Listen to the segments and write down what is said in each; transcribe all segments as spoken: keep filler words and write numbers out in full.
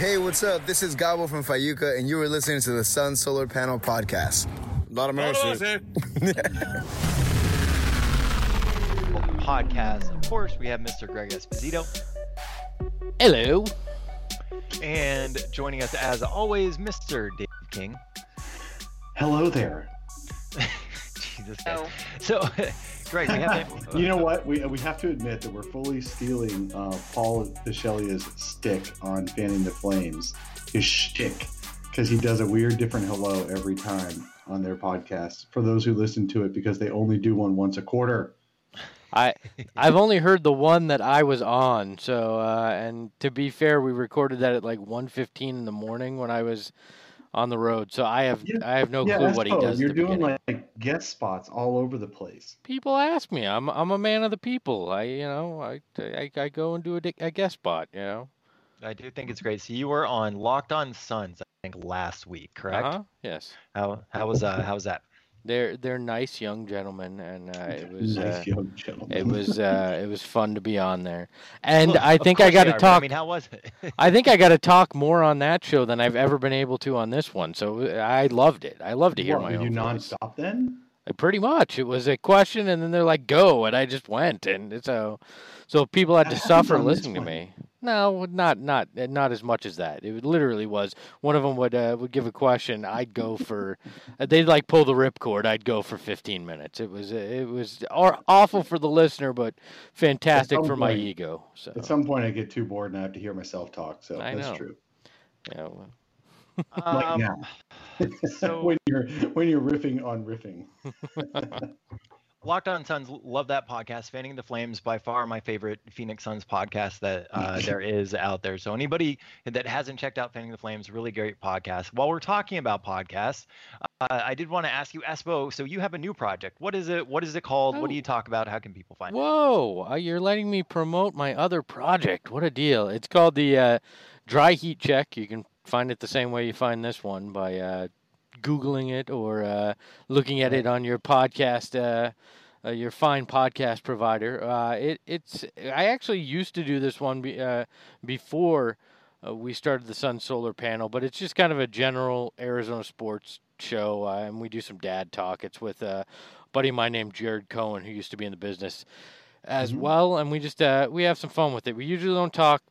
Hey, what's up? This is Gabo from Fayuca, and you were listening to the Sun Solar Panel Podcast. A lot of mercy. Podcast. Of course, we have Mister Greg Esposito. Hello. And joining us, as always, Mister Dave King. Hello there. Jesus Christ. So, Greg, we have... You know what? We we have to admit that we're fully stealing uh, Paul Pishelia's stick on Fanning the Flames, his shtick, because he does a weird, different hello every time on their podcast. For those who listen to it, because they only do one once a quarter. I I've only heard the one that I was on. So, uh, and to be fair, we recorded that at like one fifteen in the morning when I was on the road. So I have yeah, I have no yeah, clue what he cool. does. You're doing beginning. like guest spots all over the place. People ask me. I'm I'm a man of the people. I you know I I, I go and do a, a guest spot. You know. I do think it's great. So you were on Locked On Suns, I think, last week, correct? Uh-huh. Yes. How how was uh how was that? They're they're nice young gentlemen, and uh, it was nice uh, young gentlemen. it was uh, it was fun to be on there, and well, I think I got to talk. I mean, how was it? I think I got to talk more on that show than I've ever been able to on this one. So I loved it. I love to hear what, my were own you voice. nonstop then? Pretty much, it was a question, and then they're like, "Go," and I just went, and so so people had to suffer listening to me. No, not not not as much as that. It literally was one of them would uh, would give a question. I'd go for they'd like pull the ripcord. I'd go for fifteen minutes. It was it was awful for the listener, but fantastic for point, my ego. So at some point, I get too bored and I have to hear myself talk. So I that's know. true. Yeah. Well. Like um, now. So when you're when you're riffing on riffing. Locked On Suns, love that podcast. Fanning the Flames, by far my favorite Phoenix Suns podcast that uh, there is out there. So anybody that hasn't checked out Fanning the Flames, really great podcast. While we're talking about podcasts, uh, I did want to ask you, Espo, so you have a new project. What is it? What is it called? Oh. What do you talk about? How can people find Whoa, it? Whoa, you're letting me promote my other project. What a deal. It's called the uh, Dry Heat Check. You can find it the same way you find this one by uh, Googling it or uh, looking at it on your podcast, uh, uh, your fine podcast provider. Uh, it, it's I actually used to do this one be, uh, before uh, we started the Sun Solar Panel, but it's just kind of a general Arizona sports show, uh, and we do some dad talk. It's with a buddy of mine named Jared Cohen, who used to be in the business as mm-hmm. well, and we just uh, we have some fun with it. We usually don't talk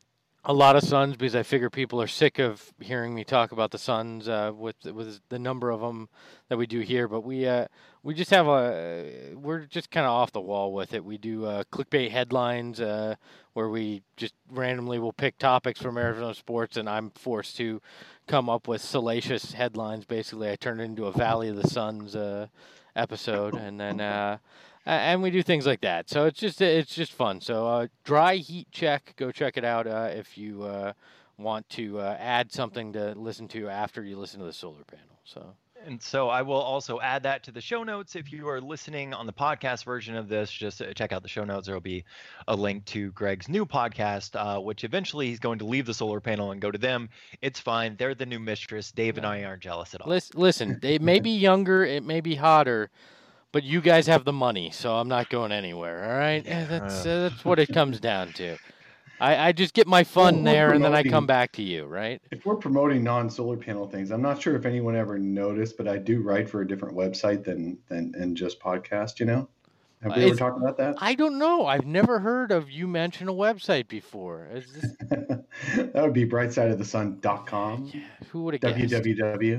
a lot of Suns because I figure people are sick of hearing me talk about the Suns uh, with with the number of them that we do here. But we uh, we just have a we're just kind of off the wall with it. We do uh, clickbait headlines uh, where we just randomly will pick topics from Arizona sports, and I'm forced to come up with salacious headlines. Basically, I turn it into a Valley of the Suns uh, episode, and then. Uh, Uh, and we do things like that, so it's just it's just fun. So uh, Dry Heat Check, go check it out uh, if you uh, want to uh, add something to listen to after you listen to the solar panel. So. And so I will also add that to the show notes. If you are listening on the podcast version of this, just check out the show notes. There will be a link to Greg's new podcast, uh, which eventually he's going to leave the solar panel and go to them. It's fine. They're the new mistress. Dave and I aren't jealous at all. Listen, listen they may be younger. It may be hotter. But you guys have the money, so I'm not going anywhere, all right? Yeah, that's uh, that's what it comes down to. I, I just get my fun well, there, and then I come back to you, right? If we're promoting non-solar panel things, I'm not sure if anyone ever noticed, but I do write for a different website than than, than just podcast, you know? Have we uh, ever talked about that? I don't know. I've never heard of you mention a website before. Is this... That would be brightside of the sun dot com. Yeah, who would have guessed? www.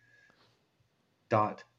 Dot.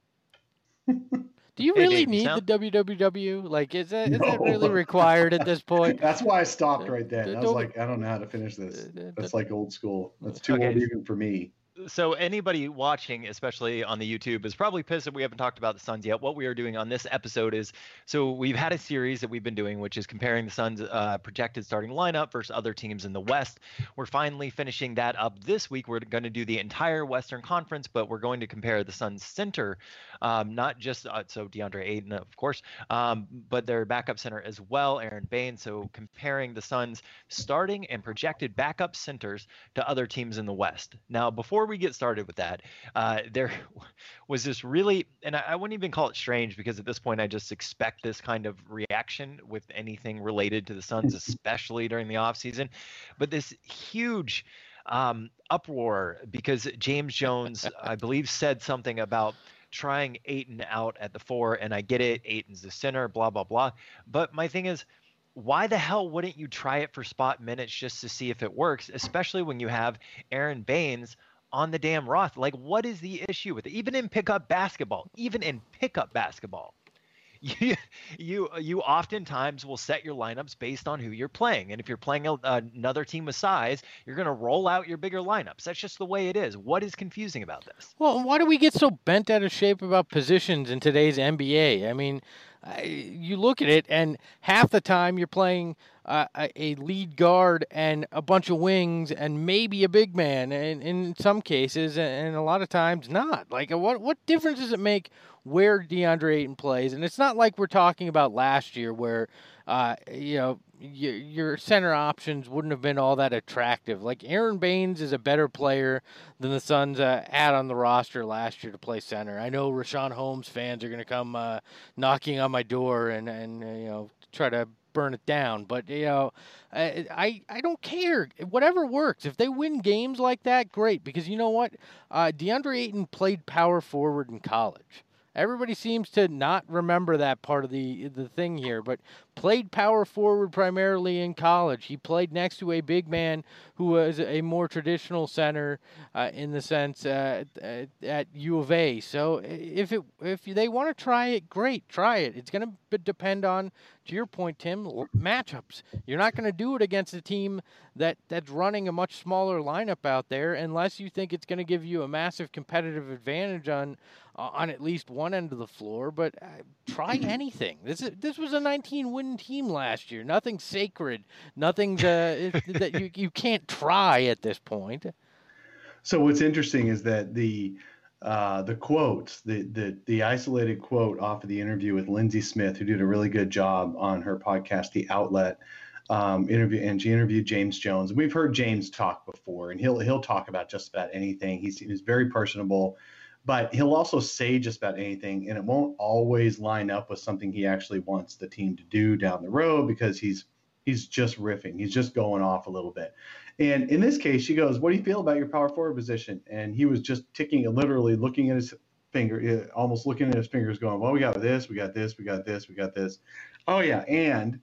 Do you really hey, need sound... the W W W? Like, is that is no. that really required at this point? That's why I stopped right then. I was like, I don't know how to finish this. That's like old school. That's too okay. old even for me. So anybody watching, especially on the YouTube, is probably pissed that we haven't talked about the Suns yet. What we are doing on this episode is, so we've had a series that we've been doing, which is comparing the Suns' uh, projected starting lineup versus other teams in the West. We're finally finishing that up this week. We're going to do the entire Western Conference, but we're going to compare the Suns' center, um, not just uh, so DeAndre Ayton, of course, um, but their backup center as well, Aaron Bain. So comparing the Suns' starting and projected backup centers to other teams in the West. Now, before we get started with that, uh, there was this really, and I, I wouldn't even call it strange because at this point I just expect this kind of reaction with anything related to the Suns, especially during the offseason. But this huge um, uproar because James Jones, I believe, said something about trying Ayton out at the four, and I get it. Ayton's the center, blah, blah, blah. But my thing is, why the hell wouldn't you try it for spot minutes just to see if it works, especially when you have Aaron Baines on the damn roster? Like, what is the issue with it? Even in pickup basketball, even in pickup basketball, you you you oftentimes will set your lineups based on who you're playing. And if you're playing a, another team with size, you're going to roll out your bigger lineups. That's just the way it is. What is confusing about this? Well, why do we get so bent out of shape about positions in today's N B A? I mean, I, you look at it, and half the time you're playing uh, a, a lead guard and a bunch of wings and maybe a big man, and in some cases, and a lot of times not. Like, what what difference does it make where DeAndre Ayton plays? And it's not like we're talking about last year where, uh, you know, your, your center options wouldn't have been all that attractive. Like, Aaron Baines is a better player than the Suns uh, had on the roster last year to play center. I know Richaun Holmes fans are going to come uh, knocking on my door and, and uh, you know, try to burn it down. But, you know, I, I don't care. Whatever works. If they win games like that, great. Because you know what? Uh, DeAndre Ayton played power forward in college. Everybody seems to not remember that part of the the thing here, but played power forward primarily in college. He played next to a big man who was a more traditional center uh, in the sense uh, at, at U of A. So if it if they want to try it, great, try it. It's going to depend on, to your point, Tim, matchups. You're not going to do it against a team that, that's running a much smaller lineup out there unless you think it's going to give you a massive competitive advantage on uh, on at least one end of the floor. But uh, try anything. This is, this was a nineteen-win team last year. Nothing sacred. Nothing uh, that you you can't try at this point. So what's interesting is that the uh, the quotes, the, the the isolated quote off of the interview with Lindsey Smith, who did a really good job on her podcast, The Outlet, um, interview, and she interviewed James Jones. We've heard James talk before, and he'll he'll talk about just about anything. He's he's very personable, but he'll also say just about anything, and it won't always line up with something he actually wants the team to do down the road because he's he's just riffing. He's just going off a little bit. And in this case, she goes, "What do you feel about your power forward position?" And he was just ticking, literally looking at his finger, almost looking at his fingers going, "Well, we got this, we got this, we got this, we got this. Oh, yeah, and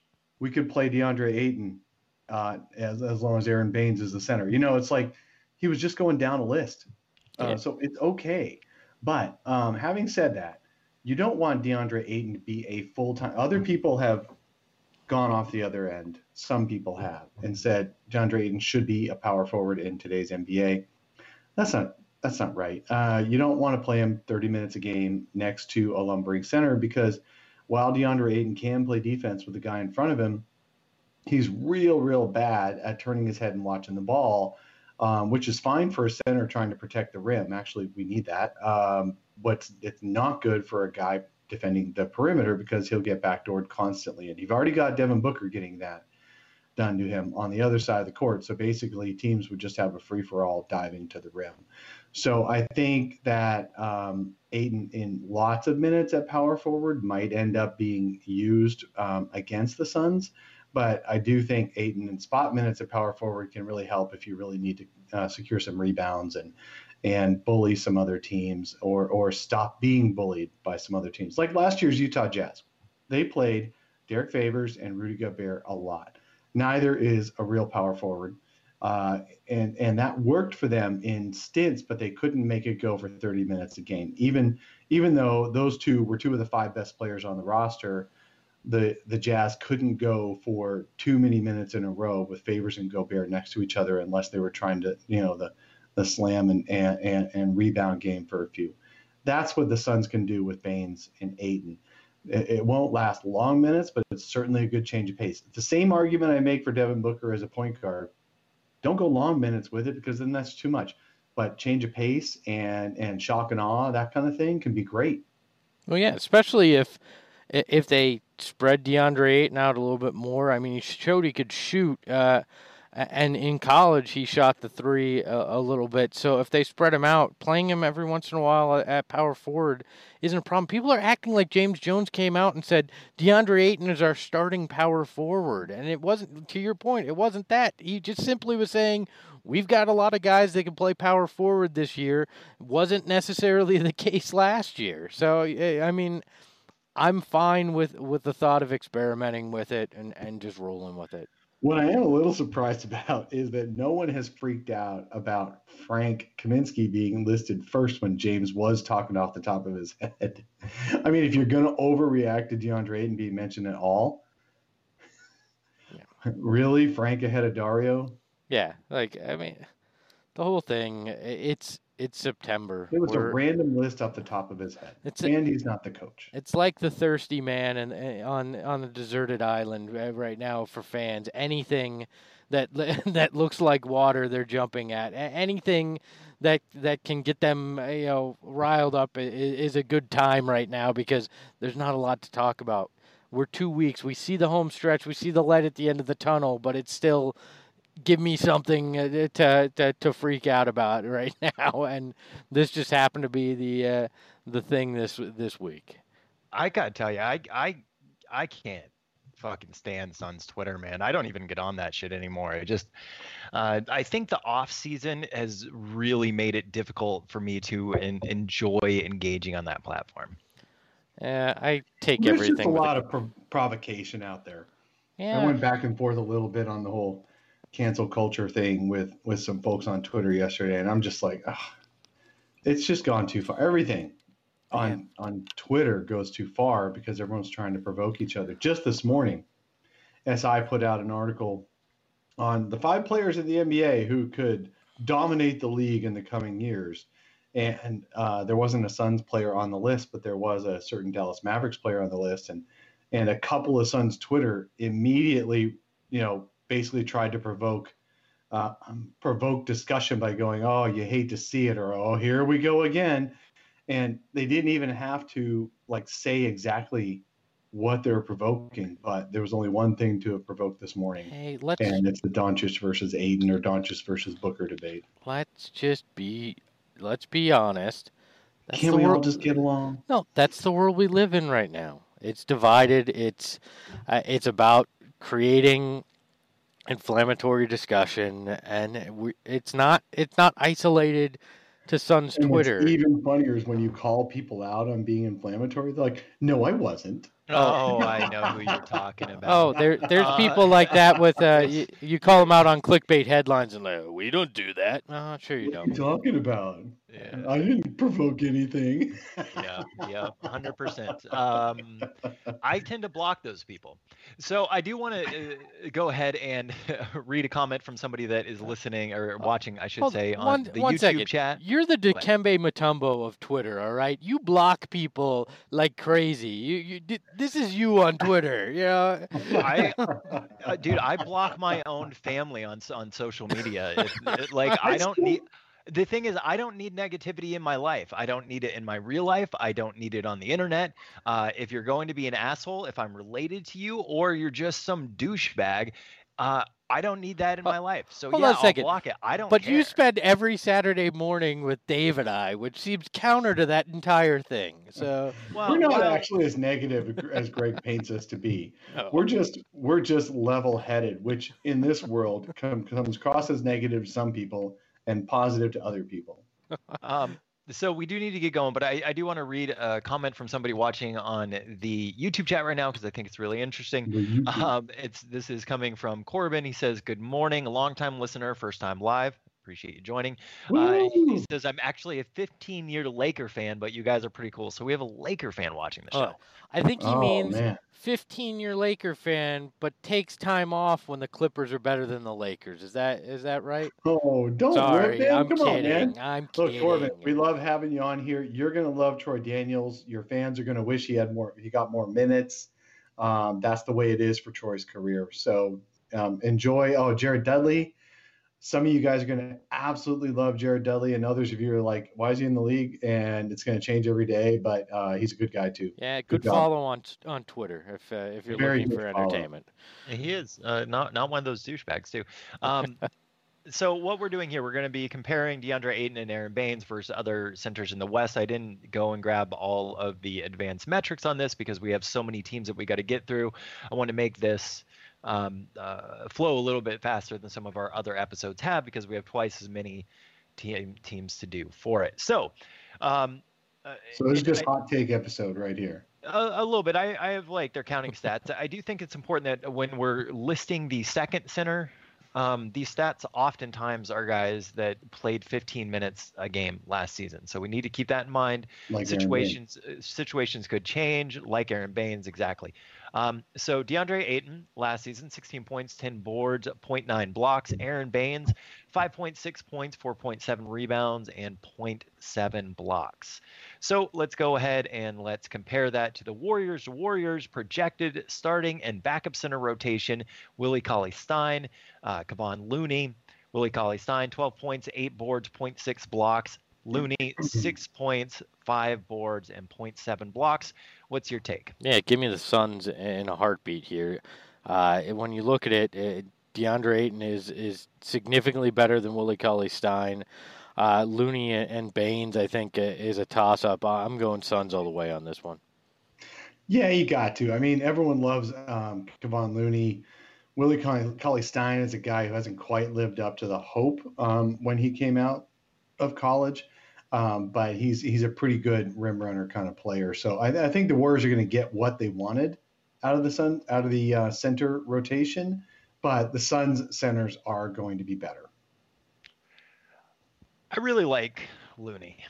we could play DeAndre Ayton uh, as, as long as Aaron Baines is the center." You know, it's like he was just going down a list. Uh, yeah. So it's okay. But um, having said that, you don't want DeAndre Ayton to be a full-time – other people have gone off the other end. Some people have and said DeAndre Ayton should be a power forward in today's N B A. That's not that's not right. Uh, you don't want to play him thirty minutes a game next to a lumbering center because while DeAndre Ayton can play defense with the guy in front of him, he's real, real bad at turning his head and watching the ball, um, which is fine for a center trying to protect the rim. Actually, we need that. Um, but it's not good for a guy defending the perimeter because he'll get backdoored constantly. And you've already got Devin Booker getting that done to him on the other side of the court. So basically teams would just have a free-for-all diving to the rim. So I think that um, Ayton in lots of minutes at power forward might end up being used um, against the Suns. But I do think Ayton in spot minutes at power forward can really help if you really need to uh, secure some rebounds and and bully some other teams or or stop being bullied by some other teams. Like last year's Utah Jazz. They played Derek Favors and Rudy Gobert a lot. Neither is a real power forward. Uh, and, and that worked for them in stints, but they couldn't make it go for thirty minutes a game. Even even though those two were two of the five best players on the roster, the, the Jazz couldn't go for too many minutes in a row with Favors and Gobert next to each other unless they were trying to, you know, the the slam and, and, and, and rebound game for a few. That's what the Suns can do with Baines and Ayton. It, it won't last long minutes, but it's certainly a good change of pace. It's the same argument I make for Devin Booker as a point guard. Don't go long minutes with it because then that's too much. But change of pace and, and shock and awe, that kind of thing can be great. Well, yeah, especially if if they spread DeAndre Ayton out a little bit more. I mean, he showed he could shoot. Uh, And in college, he shot the three a, a little bit. So if they spread him out, playing him every once in a while at power forward isn't a problem. People are acting like James Jones came out and said, DeAndre Ayton is our starting power forward. And it wasn't, to your point, it wasn't that. He just simply was saying, we've got a lot of guys that can play power forward this year. Wasn't necessarily the case last year. So, I mean, I'm fine with, with the thought of experimenting with it and, and just rolling with it. What I am a little surprised about is that no one has freaked out about Frank Kaminsky being listed first when James was talking off the top of his head. I mean, if you're going to overreact to DeAndre Ayton being mentioned at all, yeah. Really? Frank ahead of Dario? Yeah. Like, I mean, the whole thing, it's it's September. It was We're, a random list off the top of his head. It's Andy's a, not the coach. It's like the thirsty man and, and on on a deserted island right now for fans. Anything that that looks like water, they're jumping at. Anything that that can get them, you know, riled up is, is a good time right now because there's not a lot to talk about. We're two weeks. We see the home stretch. We see the light at the end of the tunnel, but it's still give me something to, to to freak out about right now, and this just happened to be the uh, the thing this this week. I gotta tell you, I I I can't fucking stand Suns Twitter, man. I don't even get on that shit anymore. I just uh, I think the off season has really made it difficult for me to en- enjoy engaging on that platform. Uh, I take There's everything. There's just a with lot it. of pro- provocation out there. Yeah. I went back and forth a little bit on the whole cancel culture thing with with some folks on Twitter yesterday, and I'm just like, ugh, it's just gone too far. Everything on yeah. on Twitter goes too far because everyone's trying to provoke each other. Just this morning, S I put out an article on the five players in the N B A who could dominate the league in the coming years, and uh, there wasn't a Suns player on the list, but there was a certain Dallas Mavericks player on the list, and and a couple of Suns Twitter immediately, you know, basically tried to provoke uh, um, provoke discussion by going, oh, you hate to see it, or oh, here we go again. And they didn't even have to like say exactly what they're provoking, but there was only one thing to have provoked this morning. Hey, let's, and it's the Doncic versus Ayton or Doncic versus Booker debate. Let's just be, let's be honest. That's Can't we world, all just get along? No, that's the world we live in right now. It's divided. It's, uh, it's about creating inflammatory discussion, and we, it's not it's not isolated to Suns and Twitter. What's even funnier is when you call people out on being inflammatory. They're like, "No, I wasn't." Oh, I know who you're talking about. Oh, there there's uh, people like that with uh, you, you call them out on clickbait headlines and like, we don't do that. No, sure you what don't. What are you talking about? Yeah. I didn't provoke anything. yeah, yeah, one hundred percent. Um, I tend to block those people. So I do want to uh, go ahead and read a comment from somebody that is listening or watching, I should Hold say, on one, the one YouTube second. chat. You're the Dikembe Mutombo of Twitter, all right? You block people like crazy. You, you, this is you on Twitter, you know? I, uh, dude, I block my own family on on social media. It, it, like, I don't need... The thing is, I don't need negativity in my life. I don't need it in my real life. I don't need it on the internet. Uh, if you're going to be an asshole, if I'm related to you, or you're just some douchebag, uh, I don't need that in my life. So Hold yeah, on a second. I'll block it. I don't But care. you spend every Saturday morning with Dave and I, which seems counter to that entire thing. So well, we're not well, actually as negative as Greg paints us to be. No. We're just we're just level-headed, which in this world come, comes across as negative to some people and positive to other people. um, so we do need to get going, but I, I do want to read a comment from somebody watching on the YouTube chat right now because I think it's really interesting. Um, it's this is coming from Corbin. He says, "Good morning, a longtime listener, first time live. Appreciate you joining." Uh, he says, "I'm actually a fifteen-year Laker fan, but you guys are pretty cool." So we have a Laker fan watching the show. Oh, I think he oh, means man. fifteen-year Laker fan, but takes time off when the Clippers are better than the Lakers. Is that is that right? Oh, don't Sorry, rip him. I'm Come kidding. on, man. I'm Look, kidding. Corbin, we love having you on here. You're gonna love Troy Daniels. Your fans are gonna wish he had more. He got more minutes. Um, that's the way it is for Troy's career. So um, enjoy. Oh, Jared Dudley. Some of you guys are going to absolutely love Jared Dudley, and others of you are like, why is he in the league? And it's going to change every day, but uh, he's a good guy too. Yeah, good, good follow on on Twitter if uh, if you're Very looking for entertainment. Follow. He is uh, not not one of those douchebags too. Um, so what we're doing here, we're going to be comparing DeAndre Ayton and Aaron Baines versus other centers in the West. I didn't go and grab all of the advanced metrics on this because we have so many teams that we got to get through. I want to make this um, uh, flow a little bit faster than some of our other episodes have because we have twice as many team teams to do for it. So, um, uh, So this is just I, hot take episode right here. A, a little bit. I, I have like their counting stats. I do think it's important that when we're listing the second center, um, these stats oftentimes are guys that played fifteen minutes a game last season. So we need to keep that in mind. Like situations situations could change, like Aaron Baines, exactly. Um, so DeAndre Ayton last season, sixteen points, ten boards, zero point nine blocks. Aaron Baines, five point six points, four point seven rebounds, and zero point seven blocks. So let's go ahead and let's compare that to the Warriors. Warriors projected starting and backup center rotation: Willie Cauley-Stein, uh, Kevon Looney. Willie Cauley-Stein, twelve points, eight boards, zero point six blocks. Looney, six points, five boards, and zero point seven blocks. What's your take? Yeah, give me the Suns in a heartbeat here. Uh, when you look at it, it, DeAndre Ayton is is significantly better than Willie Cauley-Stein. Uh, Looney and Baines, I think, is a toss-up. I'm going Suns all the way on this one. Yeah, you got to. I mean, everyone loves um, Kevon Looney. Willie Cauley-Stein is a guy who hasn't quite lived up to the hope um, when he came out of college. Um, but he's he's a pretty good rim runner kind of player. So I, I think the Warriors are going to get what they wanted out of the Sun out of the uh, center rotation, but the Suns centers are going to be better. I really like Looney.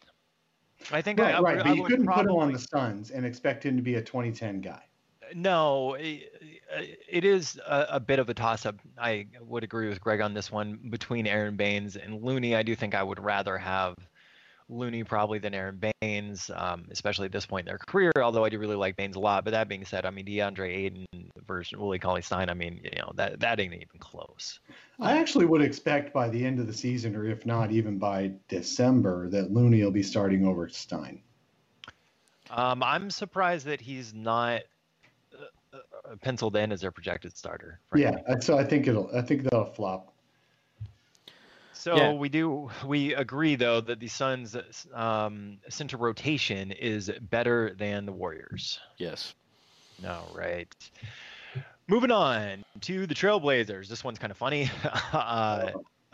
I think right, I, right. I, But I you would couldn't probably... put him on the Suns and expect him to be a twenty ten guy. No, it, it is a, a bit of a toss-up. I would agree with Greg on this one between Aaron Baines and Looney. I do think I would rather have Looney probably than Aaron Baines, um, especially at this point in their career, although I do really like Baines a lot. But that being said, I mean, DeAndre Ayton versus Willie Cauley-Stein, I mean, you know, that, that ain't even close. I actually would expect by the end of the season, or if not even by December, that Looney will be starting over Stein. Um, I'm surprised that he's not uh, uh, penciled in as their projected starter. Frankly. Yeah, so I think it'll. I think that'll flop. So yeah. we do we agree though that the Suns' um, center rotation is better than the Warriors. Yes. All right. Moving on to the Trailblazers. This one's kind of funny. uh,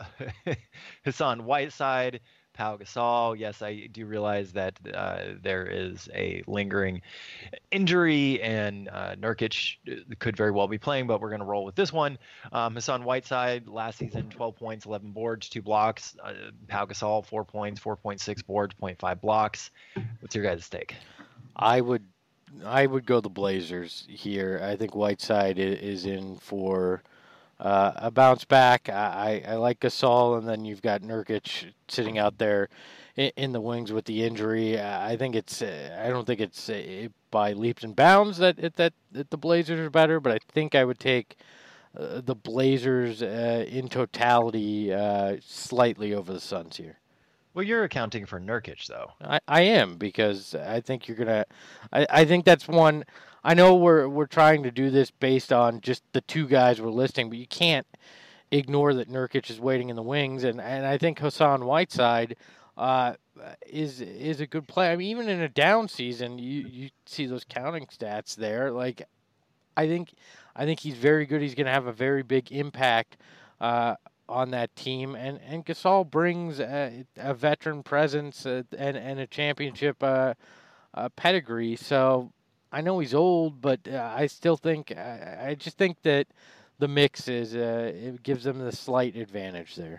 Hassan Whiteside, Pau Gasol. Yes, I do realize that uh, there is a lingering injury, and uh, Nurkic could very well be playing, but we're going to roll with this one. Um, Hassan Whiteside, last season, twelve points, eleven boards, two blocks. Uh, Pau Gasol, four points, four point six boards, zero point five blocks. What's your guys' take? I would, I would go the Blazers here. I think Whiteside is in for Uh, a bounce back. I, I like Gasol, and then you've got Nurkic sitting out there in, in the wings with the injury. Uh, I think it's. Uh, I don't think it's uh, by leaps and bounds that that that the Blazers are better, but I think I would take uh, the Blazers uh, in totality uh, slightly over the Suns here. Well, you're accounting for Nurkic, though. I, I am, because I think you're gonna. I, I think that's one. I know we're we're trying to do this based on just the two guys we're listing, but you can't ignore that Nurkic is waiting in the wings, and, and I think Hassan Whiteside uh, is is a good player. I mean, even in a down season, you, you see those counting stats there. Like, I think I think he's very good. He's going to have a very big impact uh, on that team, and and Gasol brings a, a veteran presence uh, and and a championship uh, uh, pedigree. So I know he's old, but uh, I still think I, I just think that the mix is uh, it gives them the slight advantage there.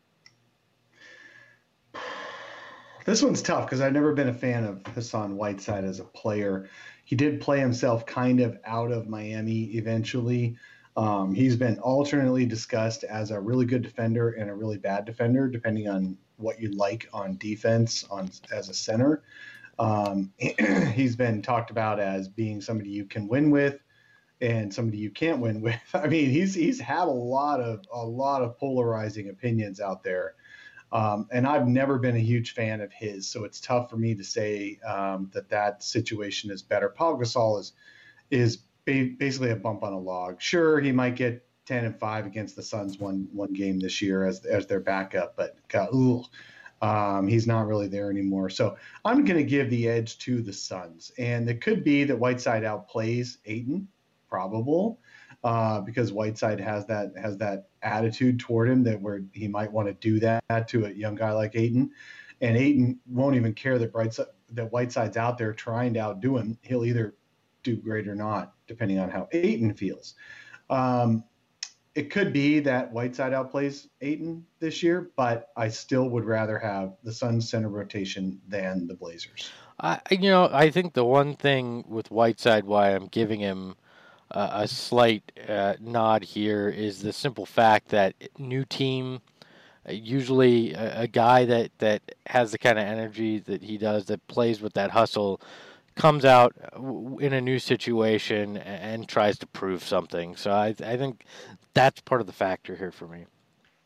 This one's tough because I've never been a fan of Hassan Whiteside as a player. He did play himself kind of out of Miami eventually. Um, he's been alternately discussed as a really good defender and a really bad defender, depending on what you like on defense on as a center. Um, he's been talked about as being somebody you can win with and somebody you can't win with. I mean, he's he's had a lot of a lot of polarizing opinions out there. Um, and I've never been a huge fan of his, so it's tough for me to say um, that that situation is better. Pau Gasol is is ba- basically a bump on a log. Sure, he might get ten and five against the Suns one one game this year as as their backup, but God, ooh, um, he's not really there anymore. So I'm going to give the edge to the Suns, and it could be that Whiteside outplays Ayton, probable. uh, because Whiteside has that has that attitude toward him that where he might want to do that to a young guy like Ayton, and Ayton won't even care that Brightside, that Whiteside's out there trying to outdo him. He'll either do great or not, depending on how Ayton feels. Um, it could be that Whiteside outplays Ayton this year, but I still would rather have the Suns center rotation than the Blazers. I, you know, I think the one thing with Whiteside, why I'm giving him uh, a slight uh, nod here, is the simple fact that new team, uh, usually a, a guy that, that has the kind of energy that he does, that plays with that hustle, comes out in a new situation and tries to prove something. So I, I think that's part of the factor here for me.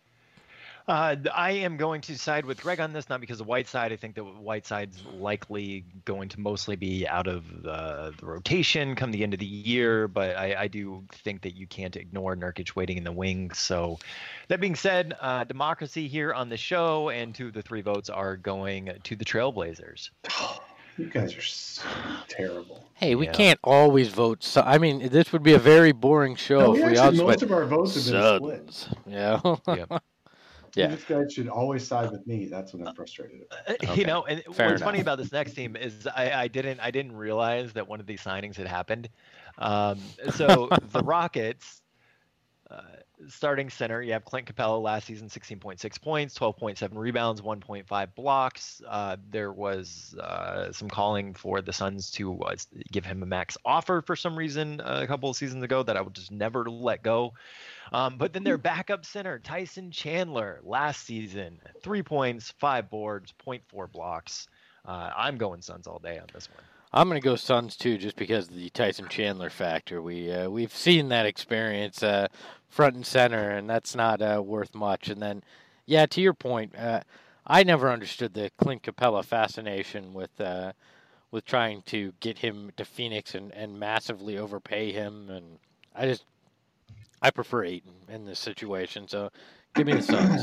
Uh, I am going to side with Greg on this, not because of Whiteside. I think that Whiteside's likely going to mostly be out of the, the rotation come the end of the year, but I, I do think that you can't ignore Nurkic waiting in the wings. So that being said, uh, democracy here on the show, and two of the three votes are going to the Trailblazers. You guys are so terrible. Hey, we Yeah. can't always vote. So, I mean, this would be a very boring show No, if we we actually, all most went of our votes have been split. Suns. Yeah. Yep. Yeah. This guy should always side with me. That's what I'm frustrated about. Uh, Okay. You know, and Fair what's funny enough. about this next team is I, I didn't I didn't realize that one of these signings had happened. Um, so the Rockets, uh, starting center, you have Clint Capella last season, sixteen point six points, twelve point seven rebounds, one point five blocks. Uh, there was uh, some calling for the Suns to uh, give him a max offer for some reason uh, a couple of seasons ago that I would just never let go. Um, but then their backup center, Tyson Chandler, last season, three points, five boards, zero point four blocks. Uh, I'm going Suns all day on this one. I'm going to go Suns too, just because of the Tyson Chandler factor. We uh, we've seen that experience uh, front and center, and that's not uh, worth much. And then, yeah, to your point, uh, I never understood the Clint Capella fascination with uh, with trying to get him to Phoenix and, and massively overpay him. And I just I prefer Ayton in this situation, so give me the Suns.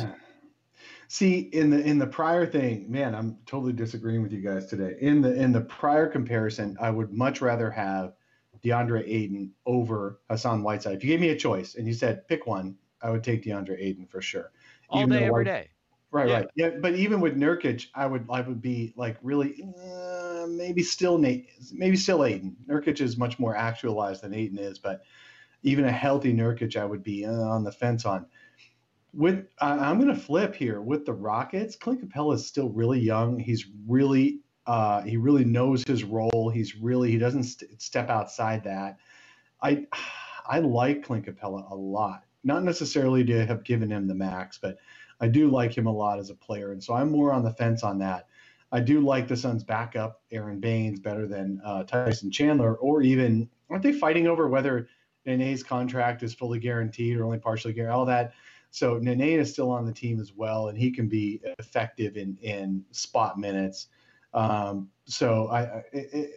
See, in the in the prior thing, man, I'm totally disagreeing with you guys today. In the in the prior comparison, I would much rather have DeAndre Ayton over Hassan Whiteside. If you gave me a choice and you said pick one, I would take DeAndre Ayton for sure. All Even day, though every White- day. Right, Yeah. right. Yeah, but even with Nurkic, I would I would be like really uh, maybe still Nate, maybe still Ayton. Nurkic is much more actualized than Ayton is, but even a healthy Nurkic, I would be uh, on the fence on. With I I'm going to flip here with the Rockets. Clint Capella is still really young. He's really uh, he really knows his role. He's really he doesn't st- step outside that. I I like Clint Capella a lot. Not necessarily to have given him the max, but I do like him a lot as a player, and so I'm more on the fence on that. I do like the Suns' backup, Aaron Baines, better than uh, Tyson Chandler, or even aren't they fighting over whether Nene's contract is fully guaranteed or only partially guaranteed? All that. So Nene is still on the team as well, and he can be effective in in spot minutes. Um, so I, I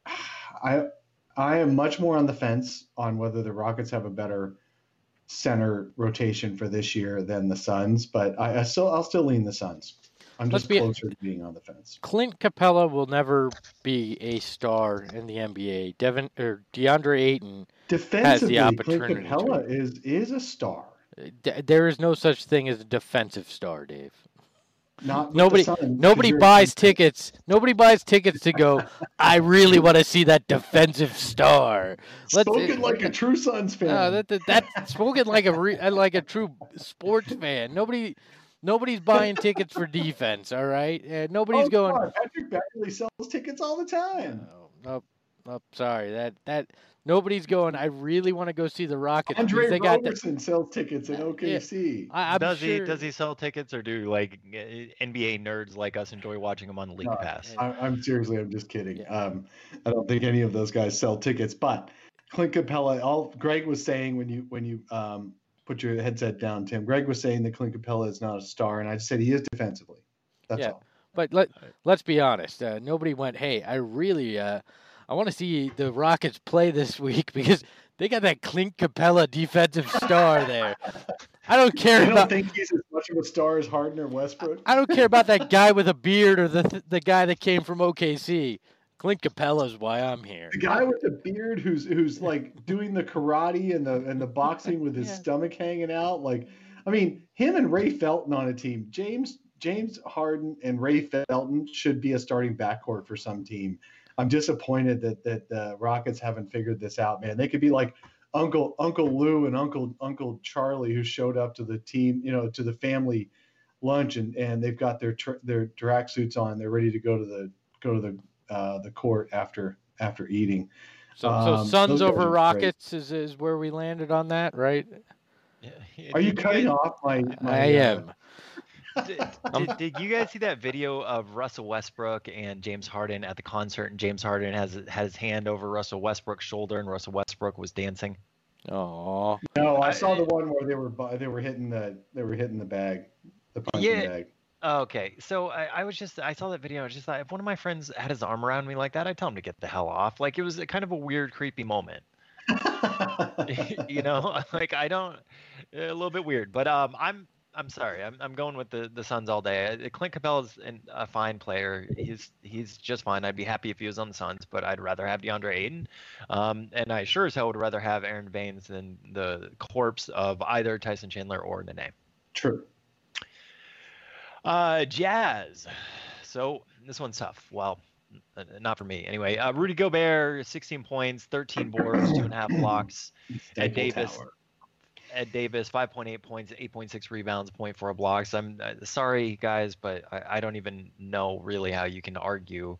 I I am much more on the fence on whether the Rockets have a better center rotation for this year than the Suns, but I, I still I'll still lean the Suns. I'm Let's just be- closer to being on the fence. Clint Capella will never be a star in the N B A. Devin or DeAndre Ayton, Defensively, Clint opportunity to. Capella is is a star. d- there is no such thing as a defensive star, Dave. Not with Nobody, the Suns, nobody 'cause you're- buys tickets. Nobody buys tickets to go. I really want to see that defensive star. Let's- Spoken like a true Suns fan. No, that, that that's spoken like a re, like a true sports fan. Nobody, nobody's buying tickets for defense. All right, uh, nobody's Oh, going. come on. Patrick Beverly sells tickets all the time. Oh, nope, nope. Sorry, that that nobody's going. I really want to go see the Rockets. because Andre they got that. Roberson sells tickets in O K C. I, I'm does sure, he does he sell tickets, or do like uh, N B A nerds like us enjoy watching him on the League No, Pass? I, I'm seriously, I'm just kidding. Yeah. Um, I don't think any of those guys sell tickets. But Clint Capella, all Greg was saying when you when you um, put your headset down, Tim. Greg was saying that Clint Capella is not a star, and I just said he is defensively. That's Yeah. all. But let let's be honest. Uh, nobody went. Hey, I really uh, I want to see the Rockets play this week because they got that Clint Capella defensive star there. I don't care I don't about. think he's as much of a star as Harden or Westbrook. I don't care about that guy with a beard or the the guy that came from O K C. Clint Capella's why I'm here. The guy with the beard who's who's like doing the karate and the and the boxing with his yeah. stomach hanging out. Like, I mean, him and Ray Felton on a team. James James Harden and Ray Felton should be a starting backcourt for some team. I'm disappointed that that the Rockets haven't figured this out, man. They could be like Uncle Uncle Lou and Uncle Uncle Charlie, who showed up to the team, you know, to the family lunch, and, and they've got their tr- their track suits on. They're ready to go to the go to the uh, the court after after eating. So, um, so Suns over Rockets great. is is where we landed on that, right? Yeah. Are you cutting off my? my I am. Uh, did, did, did you guys see that video of Russell Westbrook and James Harden at the concert, and James Harden has had his hand over Russell Westbrook's shoulder, and Russell Westbrook was dancing? Oh no, I saw the one where they were they were hitting the they were hitting the bag, the punching yeah. bag. Okay, so I, I was just I saw that video. I was just thought, if one of my friends had his arm around me like that, I'd tell him to get the hell off. Like, it was a, kind of a weird, creepy moment. You know, like I don't a little bit weird, but um, I'm. I'm sorry. I'm I'm going with the, the Suns all day. Clint Capella's an, a fine player. He's he's just fine. I'd be happy if he was on the Suns, but I'd rather have DeAndre Ayton. Um, and I sure as hell would rather have Aaron Baines than the corpse of either Tyson Chandler or Nene. True. Uh, Jazz. So this one's tough. Well, not for me anyway. Uh, Rudy Gobert, sixteen points, thirteen boards, two and a half blocks. Ed Davis. Tower. Ed Davis, five point eight points, eight point six rebounds, zero point four blocks. I'm uh, sorry, guys, but I, I don't even know really how you can argue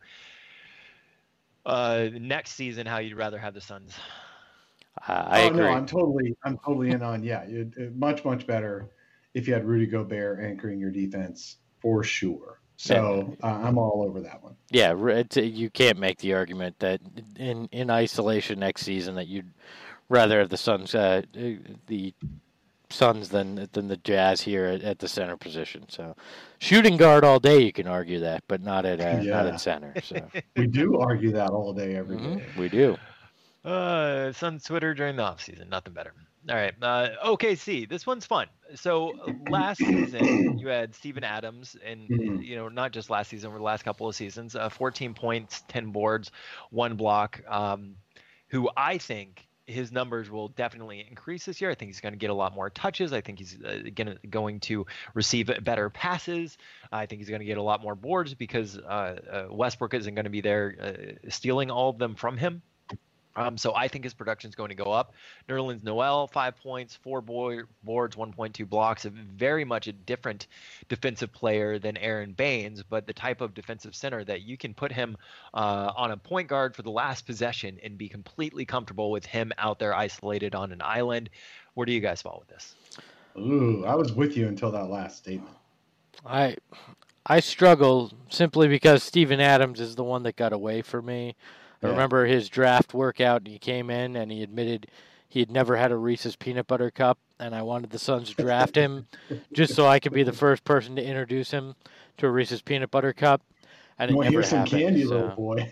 uh, next season how you'd rather have the Suns. Uh, I oh, agree. No, I'm totally, I'm totally in on. Yeah, it, it, much, much better if you had Rudy Gobert anchoring your defense for sure. So uh, I'm all over that one. Yeah, it's, you can't make the argument that in in isolation next season that you'd rather have the Suns, uh, the Suns than than the Jazz here at, at the center position. So, shooting guard all day, you can argue that, but not at uh, yeah. not at center. So we do argue that all day, every mm-hmm. day. We do. Uh, Suns Twitter during the off season, nothing better. All right, uh, O K C. This one's fun. So last season you had Steven Adams, and mm-hmm. you know not just last season, over the last couple of seasons, uh, fourteen points, ten boards, one block. Um, who I think his numbers will definitely increase this year. I think he's going to get a lot more touches. I think he's uh, gonna, going to receive better passes. I think he's going to get a lot more boards because uh, uh, Westbrook isn't going to be there uh, stealing all of them from him. Um, so I think his production is going to go up. Nerlens Noel, five points, four boy, boards, one point two blocks. A very much a different defensive player than Aaron Baines, but the type of defensive center that you can put him uh, on a point guard for the last possession and be completely comfortable with him out there isolated on an island. Where do you guys fall with this? Ooh, I was with you until that last statement. I I struggle simply because Steven Adams is the one that got away for me. I yeah. remember his draft workout, and he came in and he admitted he had never had a Reese's Peanut Butter Cup, and I wanted the Suns to draft him just so I could be the first person to introduce him to a Reese's Peanut Butter Cup. And it well, never here's some happened. candy, so, little boy.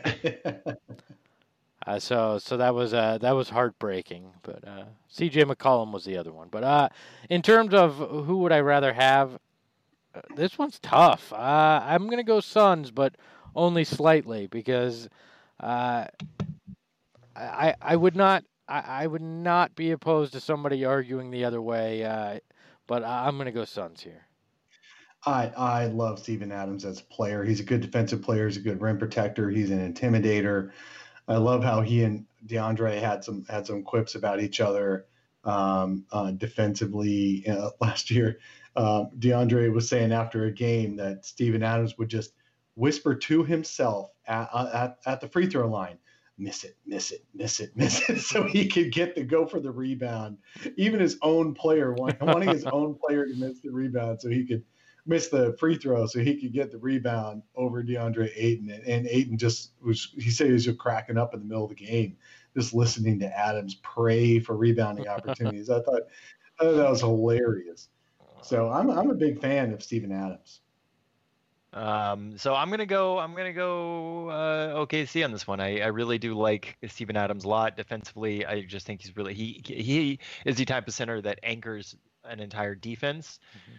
uh, so so that was uh, that was heartbreaking. But uh, C J McCollum was the other one. But uh, in terms of who would I rather have, uh, this one's tough. Uh, I'm going to go Suns, but only slightly because – Uh, I I would not I, I would not be opposed to somebody arguing the other way, uh, but I'm going to go Suns here. I I love Steven Adams as a player. He's a good defensive player. He's a good rim protector. He's an intimidator. I love how he and DeAndre had some had some quips about each other um, uh, defensively uh, last year. Uh, DeAndre was saying after a game that Steven Adams would just whisper to himself at, at, at the free throw line, miss it, miss it, miss it, miss it, so he could get to go for the rebound. Even his own player, wanting his own player to miss the rebound so he could miss the free throw so he could get the rebound over DeAndre Ayton. And, and Ayton just was, he said he was just cracking up in the middle of the game, just listening to Adams pray for rebounding opportunities. I thought, I thought that was hilarious. So I'm I'm a big fan of Steven Adams. Um, so I'm gonna go. I'm gonna go uh, O K C on this one. I, I really do like Steven Adams a lot defensively. I just think he's really he he is the type of center that anchors an entire defense. Mm-hmm.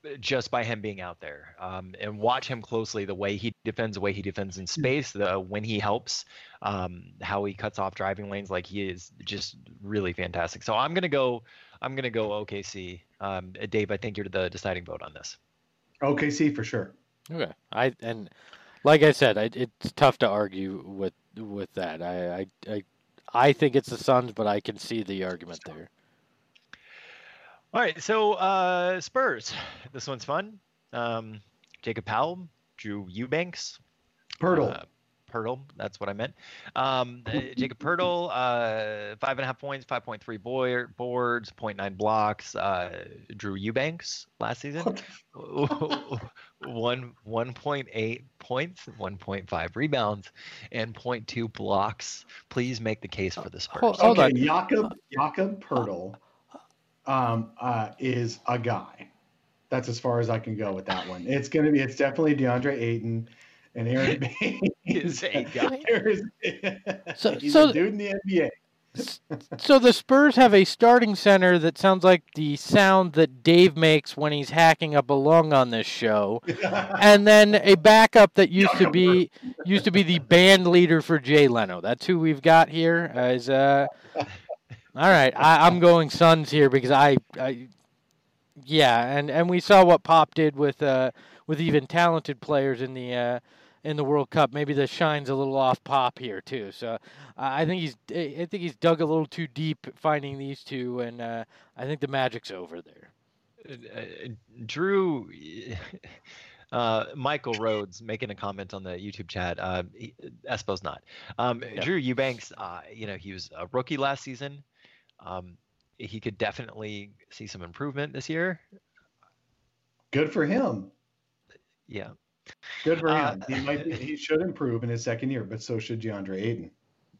just by him being out there, um, and watch him closely. The way he defends, the way he defends in space, the when he helps, um, how he cuts off driving lanes, like he is just really fantastic. So I'm gonna go. I'm gonna go O K C. Um, Dave, I think you're the deciding vote on this. O K C for sure. Okay, I and like I said, I, it's tough to argue with with that. I, I I I think it's the Suns, but I can see the argument there. All right, so uh, Spurs. This one's fun. Um, Jacob Powell, Drew Eubanks, Pirtle. Uh, Pirtle, that's what I meant. Um, uh, Jacob Pirtle, uh, five and a half points, five point three boy, boards, zero point nine blocks. Uh, Drew Eubanks last season, one one point eight points, one point five rebounds, and zero point two blocks. Please make the case for the Spurs. Hold, hold okay, on. Jakob Jakob Pirtle um, uh, is a guy. That's as far as I can go with that one. It's gonna be. It's definitely DeAndre Ayton. And Aaron Baines is a guy. Is, So, he's so, a dude in the N B A. so the Spurs have a starting center that sounds like the sound that Dave makes when he's hacking up a lung on this show, and then a backup that used to be used to be the band leader for Jay Leno. That's who we've got here. Uh, is uh, all right. I, I'm going Suns here because I, I, yeah, and, and we saw what Pop did with uh with even talented players in the uh. in the World Cup. Maybe the shine's a little off Pop here too. So uh, I think he's I think he's dug a little too deep finding these two, and uh, I think the magic's over there. Uh, Drew, uh, Michael Rhodes making a comment on the YouTube chat. Uh, he, Espo's not. Um, Yeah. Drew Eubanks, uh, you know, he was a rookie last season. Um, he could definitely see some improvement this year. Good for him. Yeah. Good for Uh, him. He might be, he should improve in his second year, but so should DeAndre Ayton.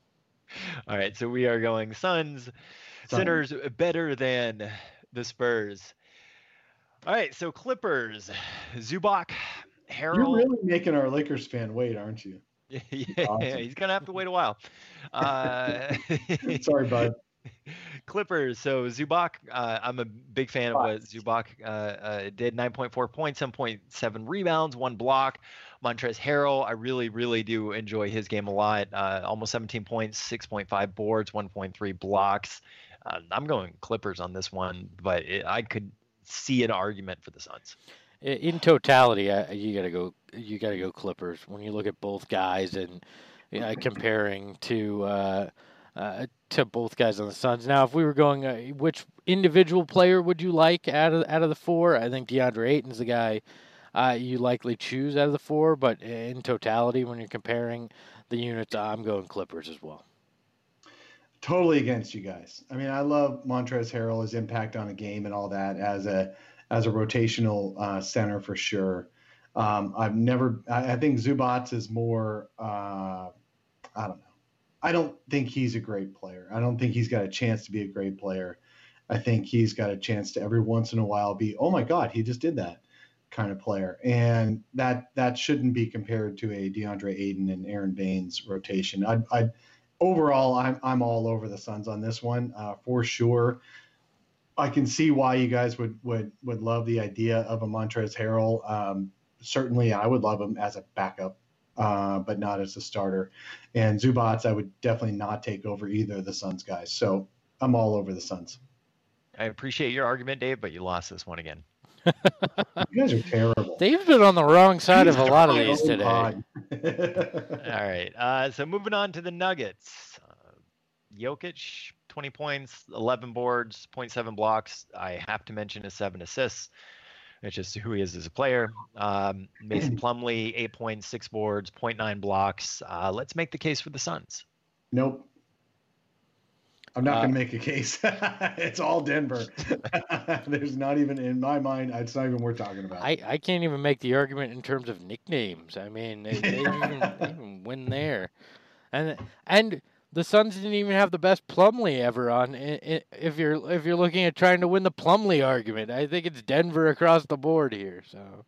All right, so we are going Suns, centers better than the Spurs. All right, so Clippers, Zubac, Harrell. You're really making our Lakers fan wait, aren't you? yeah, Awesome. he's gonna have to wait a while. Uh, Sorry, bud. Clippers. So Zubac, uh, I'm a big fan of what Zubac uh, uh, did. nine point four points, seven point seven rebounds, one block. Montrezl Harrell, I really, really do enjoy his game a lot. Uh, almost seventeen points, six point five boards, one point three blocks. Uh, I'm going Clippers on this one, but it, I could see an argument for the Suns. In totality, uh, you gotta go. You gotta go Clippers. When you look at both guys and uh, comparing to uh, uh, to both guys on the Suns. Now, if we were going, uh, which individual player would you like out of out of the four? I think DeAndre Ayton's the guy uh, you likely choose out of the four. But in totality, when you're comparing the units, I'm going Clippers as well. Totally against you guys. I mean, I love Montrezl Harrell, his impact on a game and all that as a as a rotational uh, center for sure. Um, I've never. I, I think Zubac is more. Uh, I don't know. I don't think he's a great player. I don't think he's got a chance to be a great player. I think he's got a chance to every once in a while be, oh my God, he just did that kind of player. And that that shouldn't be compared to a DeAndre Ayton and Aaron Baines rotation. I, I overall, I'm I'm all over the Suns on this one uh, for sure. I can see why you guys would would would love the idea of a Montrezl Harrell. Um, certainly, I would love him as a backup. Uh, but not as a starter. And Zubac, I would definitely not take over either of the Suns guys. So I'm all over the Suns. I appreciate your argument, Dave, but you lost this one again. You guys are terrible. They've been on the wrong side of a lot of these today. All right. Uh, so moving on to the Nuggets. Uh, Jokic, twenty points, eleven boards, zero point seven blocks. I have to mention his seven assists. It's just who he is as a player. Um, Mason Plumlee, eight points, six boards, zero point nine blocks. Uh, let's make the case for the Suns. Nope. I'm not Uh, going to make a case. It's all Denver. There's not even, in my mind, it's not even worth talking about. I, I can't even make the argument in terms of nicknames. I mean, they, they, even, they even win there. And and the Suns didn't even have the best Plumlee ever on. I- I- If you're if you're looking at trying to win the Plumlee argument, I think it's Denver across the board here. So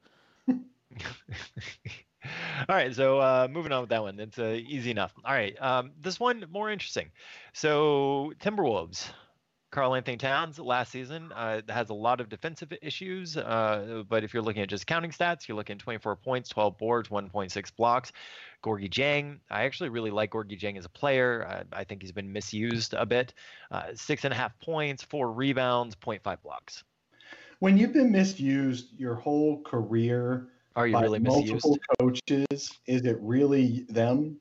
All right, so uh, moving on with that one. It's uh, easy enough. All right, um, this one more interesting. So Timberwolves, Karl Anthony Towns last season uh, has a lot of defensive issues, uh, but if you're looking at just counting stats, you're looking at twenty-four points, twelve boards, one point six blocks. Gorgui Dieng, I actually really like Gorgui Dieng as a player. I, I think he's been misused a bit. Uh, six and a half points, four rebounds, zero point five blocks. When you've been misused your whole career Are you by really multiple misused? coaches, is it really them?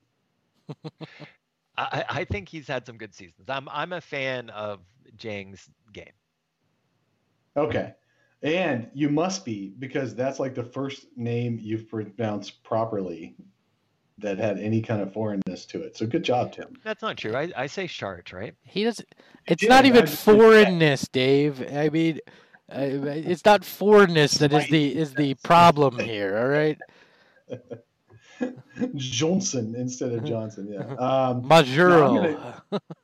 I, I think he's had some good seasons. I'm I'm a fan of Dieng's game. Okay. And you must be, because that's like the first name you've pronounced properly that had any kind of foreignness to it. So good job, Tim. That's not true. I, I say Shart, right? He does. It's did, not I even just- foreignness, Dave. I mean, uh, it's not foreignness that is the is the problem here. All right, Johnson instead of Johnson. Yeah. Um, Majuro.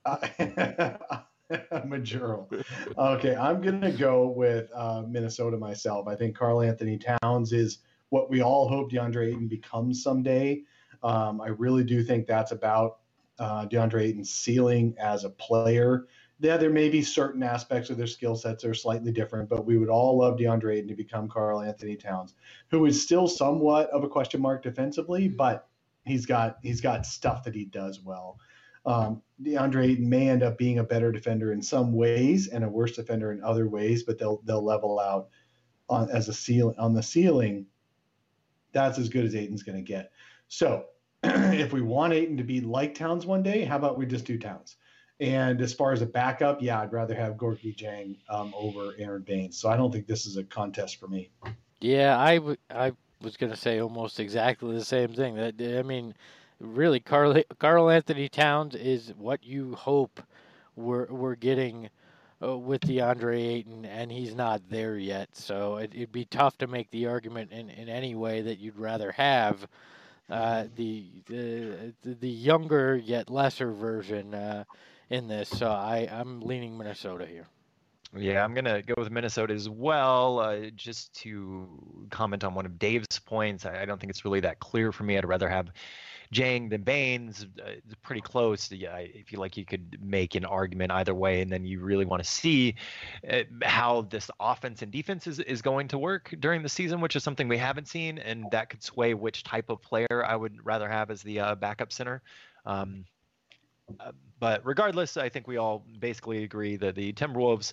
Majuro. Okay, I'm gonna go with uh, Minnesota myself. I think Karl Anthony Towns is what we all hope DeAndre Ayton becomes someday. Um, I really do think that's about uh, DeAndre Ayton's ceiling as a player. Yeah, there may be certain aspects of their skill sets that are slightly different, but we would all love DeAndre Ayton to become Karl Anthony Towns, who is still somewhat of a question mark defensively, but he's got he's got stuff that he does well. Um, DeAndre Ayton may end up being a better defender in some ways and a worse defender in other ways, but they'll they'll level out on as a ceiling on the ceiling. That's as good as Ayton's going to get. So if we want Ayton to be like Towns one day, how about we just do Towns? And as far as a backup, yeah, I'd rather have Gorgui Dieng um, over Aaron Baines. So I don't think this is a contest for me. Yeah, I, w- I was going to say almost exactly the same thing. That I mean, really, Karl Karl Anthony Towns is what you hope we're we're getting uh, with DeAndre Ayton, and he's not there yet. So it, it'd be tough to make the argument in, in any way that you'd rather have uh, the, the the younger yet lesser version uh, in this. So I I'm leaning Minnesota here. Yeah, I'm going to go with Minnesota as well. Uh, just to comment on one of Dave's points, I, I don't think it's really that clear for me. I'd rather have Dieng than Baines. Uh, it's pretty close. Yeah, I feel like you could make an argument either way, and then you really want to see uh, how this offense and defense is, is going to work during the season, which is something we haven't seen, and that could sway which type of player I would rather have as the uh, backup center. Um, Uh, but regardless, I think we all basically agree that the Timberwolves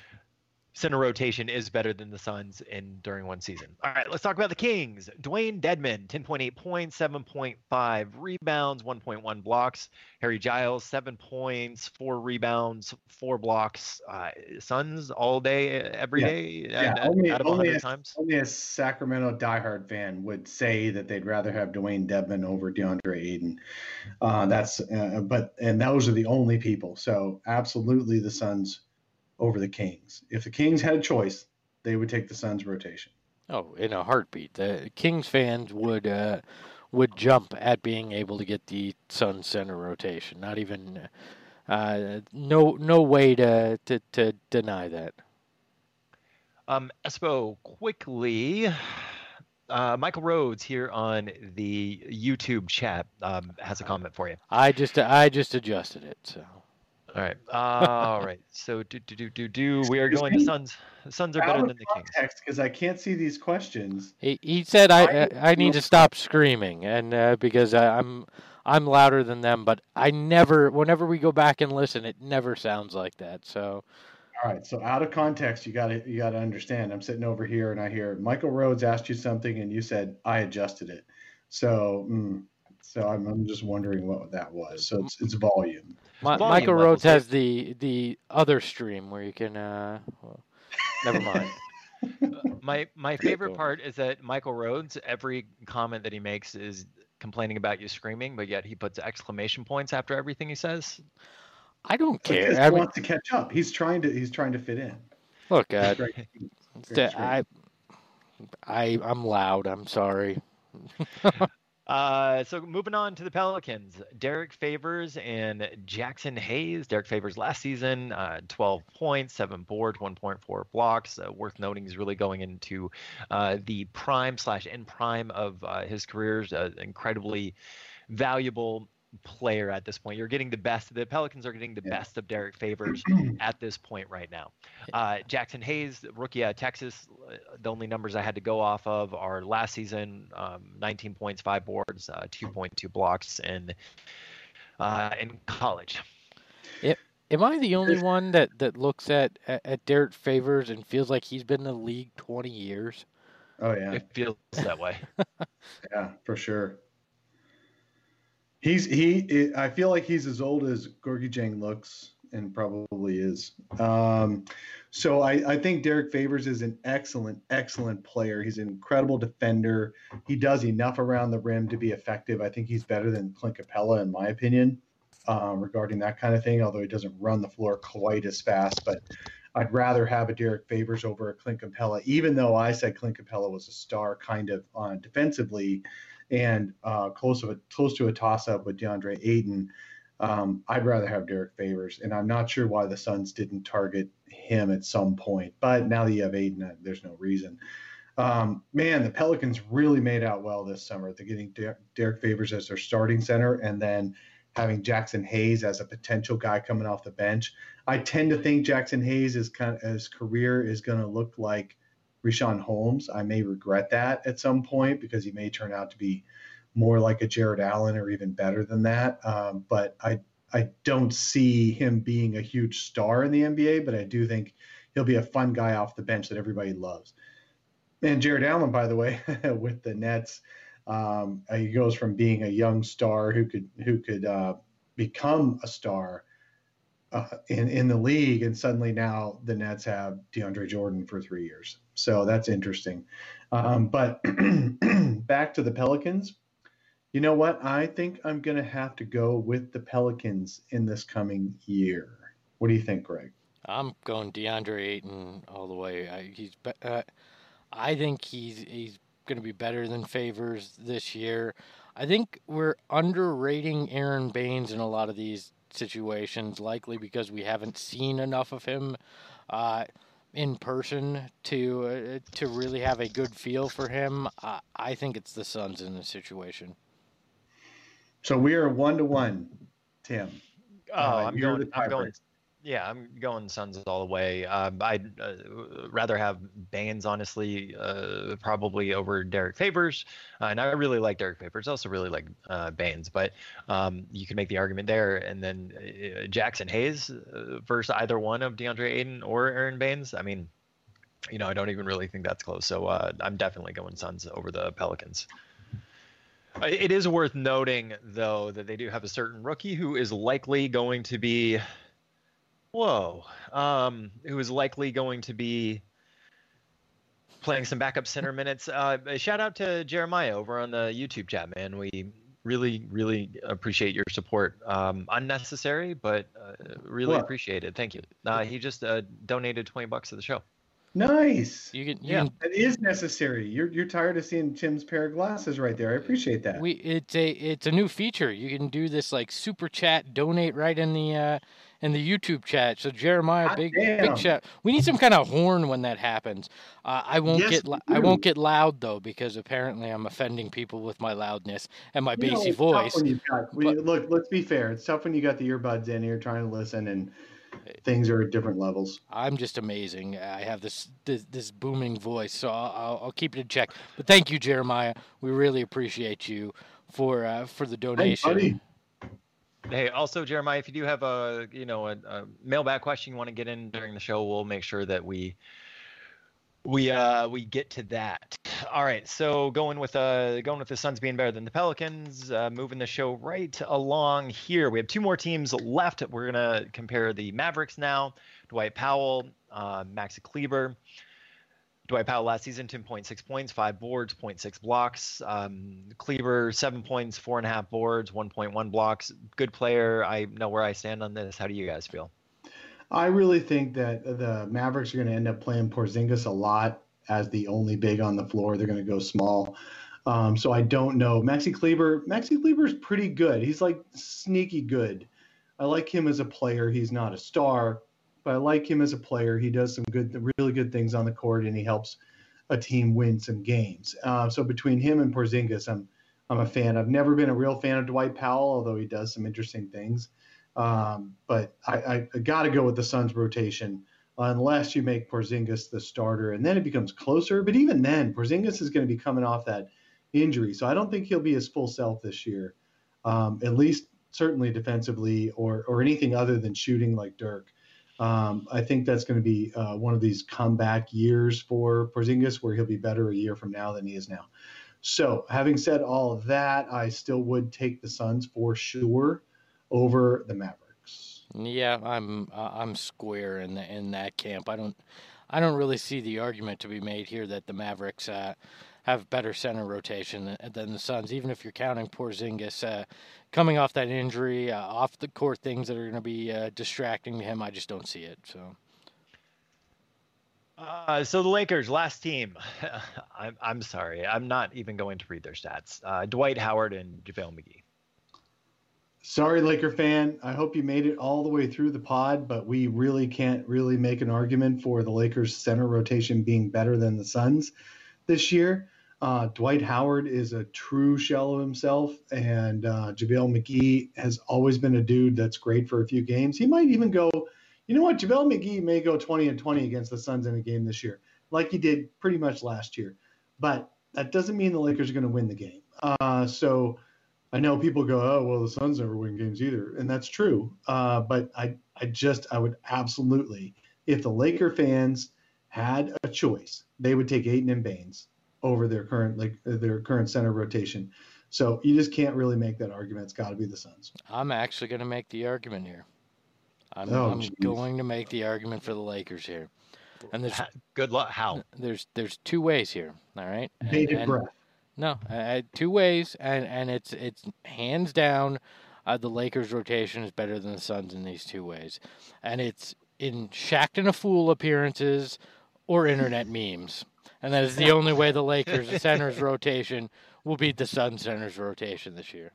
center rotation is better than the Suns in during one season. All right, let's talk about the Kings. Dwayne Dedmon, ten point eight points, seven point five rebounds, one point one blocks. Harry Giles, seven points, four rebounds, four blocks. Uh, Suns all day, every Yeah. day, Yeah, and, only, out of only, one hundred a, times. only a Sacramento diehard fan would say that they'd rather have Dwayne Dedmon over DeAndre Ayton. Uh, that's, uh, but and those are the only people. So absolutely, the Suns over the Kings. If the Kings had a choice, they would take the Suns rotation. Oh, in a heartbeat. The Kings fans would uh, would jump at being able to get the Suns center rotation. Not even uh, no no way to, to, to deny that. Um, Espo, quickly, uh, Michael Rhodes here on the YouTube chat um, has a comment for you. I just I just adjusted it. So All right. All right. So do do do do do. We are going to Suns. The Suns are better than the Kings. Because I can't see these questions. he he said I I- I, I need to stop screaming and uh, because I, I'm I'm louder than them, but I never whenever we go back and listen, it never sounds like that. So. All right, so out of context, you got to you got to understand. I'm sitting over here and I hear Michael Rhodes asked you something, and you said I adjusted it. So, mm, so I'm, I'm just wondering what that was. So it's it's volume. My, Volume Michael levels, Rhodes has the the other stream where you can. Uh, well, never mind. My my favorite part is that Michael Rhodes, every comment that he makes is complaining about you screaming, but yet he puts exclamation points after everything he says. I don't Because care. he I mean, wants to catch up. He's trying to he's trying to fit in. look, uh, Great. it's the- I, I, I'm loud. I'm sorry. Uh, so moving on to the Pelicans, Derek Favors and Jackson Hayes. Derek Favors last season, uh, twelve points, seven boards, one point four blocks. Uh, worth noting, he's really going into uh, the prime slash end prime of uh, his career. Uh, incredibly valuable player at this point. You're getting the best. The Pelicans are getting the Yeah. best of Derek Favors at this point right now. Uh, Jackson Hayes, rookie at Texas. The only numbers I had to go off of are last season: um, nineteen points, five boards, uh, two point two blocks, and uh, in college. It, am I the only one that, that looks at, at at Derek Favors and feels like he's been in the league twenty years? Oh yeah, It feels that way. yeah, for sure. He's he. I feel like he's as old as Gorgie Jang looks, and probably is. Um, so I, I think Derek Favors is an excellent, excellent player. He's an incredible defender. He does enough around the rim to be effective. I think he's better than Clint Capella, in my opinion, um, regarding that kind of thing. Although he doesn't run the floor quite as fast, but I'd rather have a Derek Favors over a Clint Capella, even though I said Clint Capella was a star kind of on defensively. And uh, close to a close to a toss-up with DeAndre Ayton, um, I'd rather have Derek Favors, and I'm not sure why the Suns didn't target him at some point. But now that you have Ayton, there's no reason. Um, man, the Pelicans really made out well this summer. They're getting Der- Derek Favors as their starting center, and then having Jackson Hayes as a potential guy coming off the bench. I tend to think Jackson Hayes is kind of his career is going to look like Richaun Holmes. I may regret that at some point because he may turn out to be more like a Jared Allen or even better than that. Um, but I I don't see him being a huge star in the N B A, but I do think he'll be a fun guy off the bench that everybody loves. And Jared Allen, by the way, with the Nets, um, he goes from being a young star who could who could uh, become a star Uh, in, in the league, and suddenly now the Nets have DeAndre Jordan for three years. So that's interesting. Um, but back to the Pelicans. You know what? I think I'm going to have to go with the Pelicans in this coming year. What do you think, Greg? I'm going DeAndre Ayton all the way. I, he's. Be, uh, I think he's he's going to be better than Favors this year. I think we're underrating Aaron Baines in a lot of these situations, likely because we haven't seen enough of him uh, in person to uh, to really have a good feel for him. Uh, I think it's the Suns in this situation. So we are one to one, Tim. Oh, Uh, I'm you're going. the I'm going. tiebreaker. Yeah, I'm going Suns all the way. Um, I'd uh, rather have Baines, honestly, uh, probably over Derek Favors. Uh, and I really like Derek Favors. I also really like uh, Baines. But um, you can make the argument there. And then uh, Jackson Hayes uh, versus either one of DeAndre Ayton or Aaron Baines. I mean, you know, I don't even really think that's close. So uh, I'm definitely going Suns over the Pelicans. It is worth noting, though, that they do have a certain rookie who is likely going to be – Whoa, um, who is likely going to be playing some backup center minutes. Uh, a shout out to Jeremiah over on the YouTube chat, man. We really, really appreciate your support. Um, unnecessary, but uh, really What? appreciate it. Thank you. Uh, he just uh, donated twenty bucks to the show. Nice. You can, you Yeah. can It is necessary. You're you're tired of seeing Tim's pair of glasses right there. I appreciate that. we it's a it's a new feature. You can do this like super chat, donate right in the uh, in the YouTube chat. So Jeremiah, Hot big damn. big shout. We need some kind of horn when that happens. Uh, I won't Yes, get we li- I do. won't get loud though because apparently I'm offending people with my loudness and my You know, bassy it's tough voice. when you've got- when but- you- look, let's be fair. It's tough when you got the earbuds in and you're trying to listen and things are at different levels. I'm just amazing. I have this this, this booming voice, so I'll, I'll, I'll keep it in check. But thank you, Jeremiah. We really appreciate you for uh, for the Hey, donation. buddy. Hey, also, Jeremiah, if you do have a you know a, a mailbag question you want to get in during the show, we'll make sure that we we uh we get to that. All right, so going with uh going with the Suns being better than the Pelicans, uh, moving the show right along here. We have two more teams left. We're gonna compare the Mavericks now. Dwight Powell, uh, Maxi Kleber. Dwight Powell last season, ten point six points, five boards, zero point six blocks. Um, Kleber, seven points, four and a half boards, one point one blocks. Good player. I know where I stand on this. How do you guys feel? I really think that the Mavericks are going to end up playing Porzingis a lot as the only big on the floor. They're going to go small. Um, so I don't know. Maxi Kleber, Maxi Kleber is pretty good. He's like sneaky good. I like him as a player. He's not a star, but I like him as a player. He does some good, really good things on the court, and he helps a team win some games. Uh, so between him and Porzingis, I'm I'm a fan. I've never been a real fan of Dwight Powell, although he does some interesting things. Um, but I, I, I got to go with the Suns rotation unless you make Porzingis the starter, and then it becomes closer. But even then, Porzingis is going to be coming off that injury, so I don't think he'll be his full self this year, um, at least certainly defensively or or anything other than shooting like Dirk. Um, I think that's going to be uh, one of these comeback years for Porzingis where he'll be better a year from now than he is now. So having said all of that, I still would take the Suns for sure over the Mavericks. Yeah, I'm uh, I'm square in the, in that camp. I don't I don't really see the argument to be made here that the Mavericks uh, have better center rotation than, than the Suns, even if you're counting Porzingis uh, coming off that injury, uh, off the court things that are going to be uh, distracting to him. I just don't see it. So. Uh, so the Lakers, last team. I'm I'm sorry, I'm not even going to read their stats. Uh, Dwight Howard and JaVale McGee. Sorry, Laker fan. I hope you made it all the way through the pod, but we really can't really make an argument for the Lakers' center rotation being better than the Suns this year. Uh, Dwight Howard is a true shell of himself, and uh, JaVale McGee has always been a dude that's great for a few games. He might even go, you know what, JaVale McGee may go twenty and twenty against the Suns in a game this year, like he did pretty much last year. But that doesn't mean the Lakers are going to win the game. Uh, so I know people go, oh, well, the Suns never win games either. And that's true. Uh, but I, I just, I would absolutely, if the Laker fans had a choice, they would take Ayton and Baines over their current, like their current center rotation. So you just can't really make that argument. It's got to be the Suns. I'm actually going to make the argument here. I'm, Oh, I'm geez. going to make the argument for the Lakers here. And there's Ha- Good luck. How? there's there's two ways here. All right. And- Bated and- breath. No, uh, two ways, and, and it's it's hands down, uh, the Lakers' rotation is better than the Suns in these two ways, and it's in Shaqtin' a Fool appearances or internet memes, and that is the only way the Lakers' center's rotation will beat the Suns' center's rotation this year.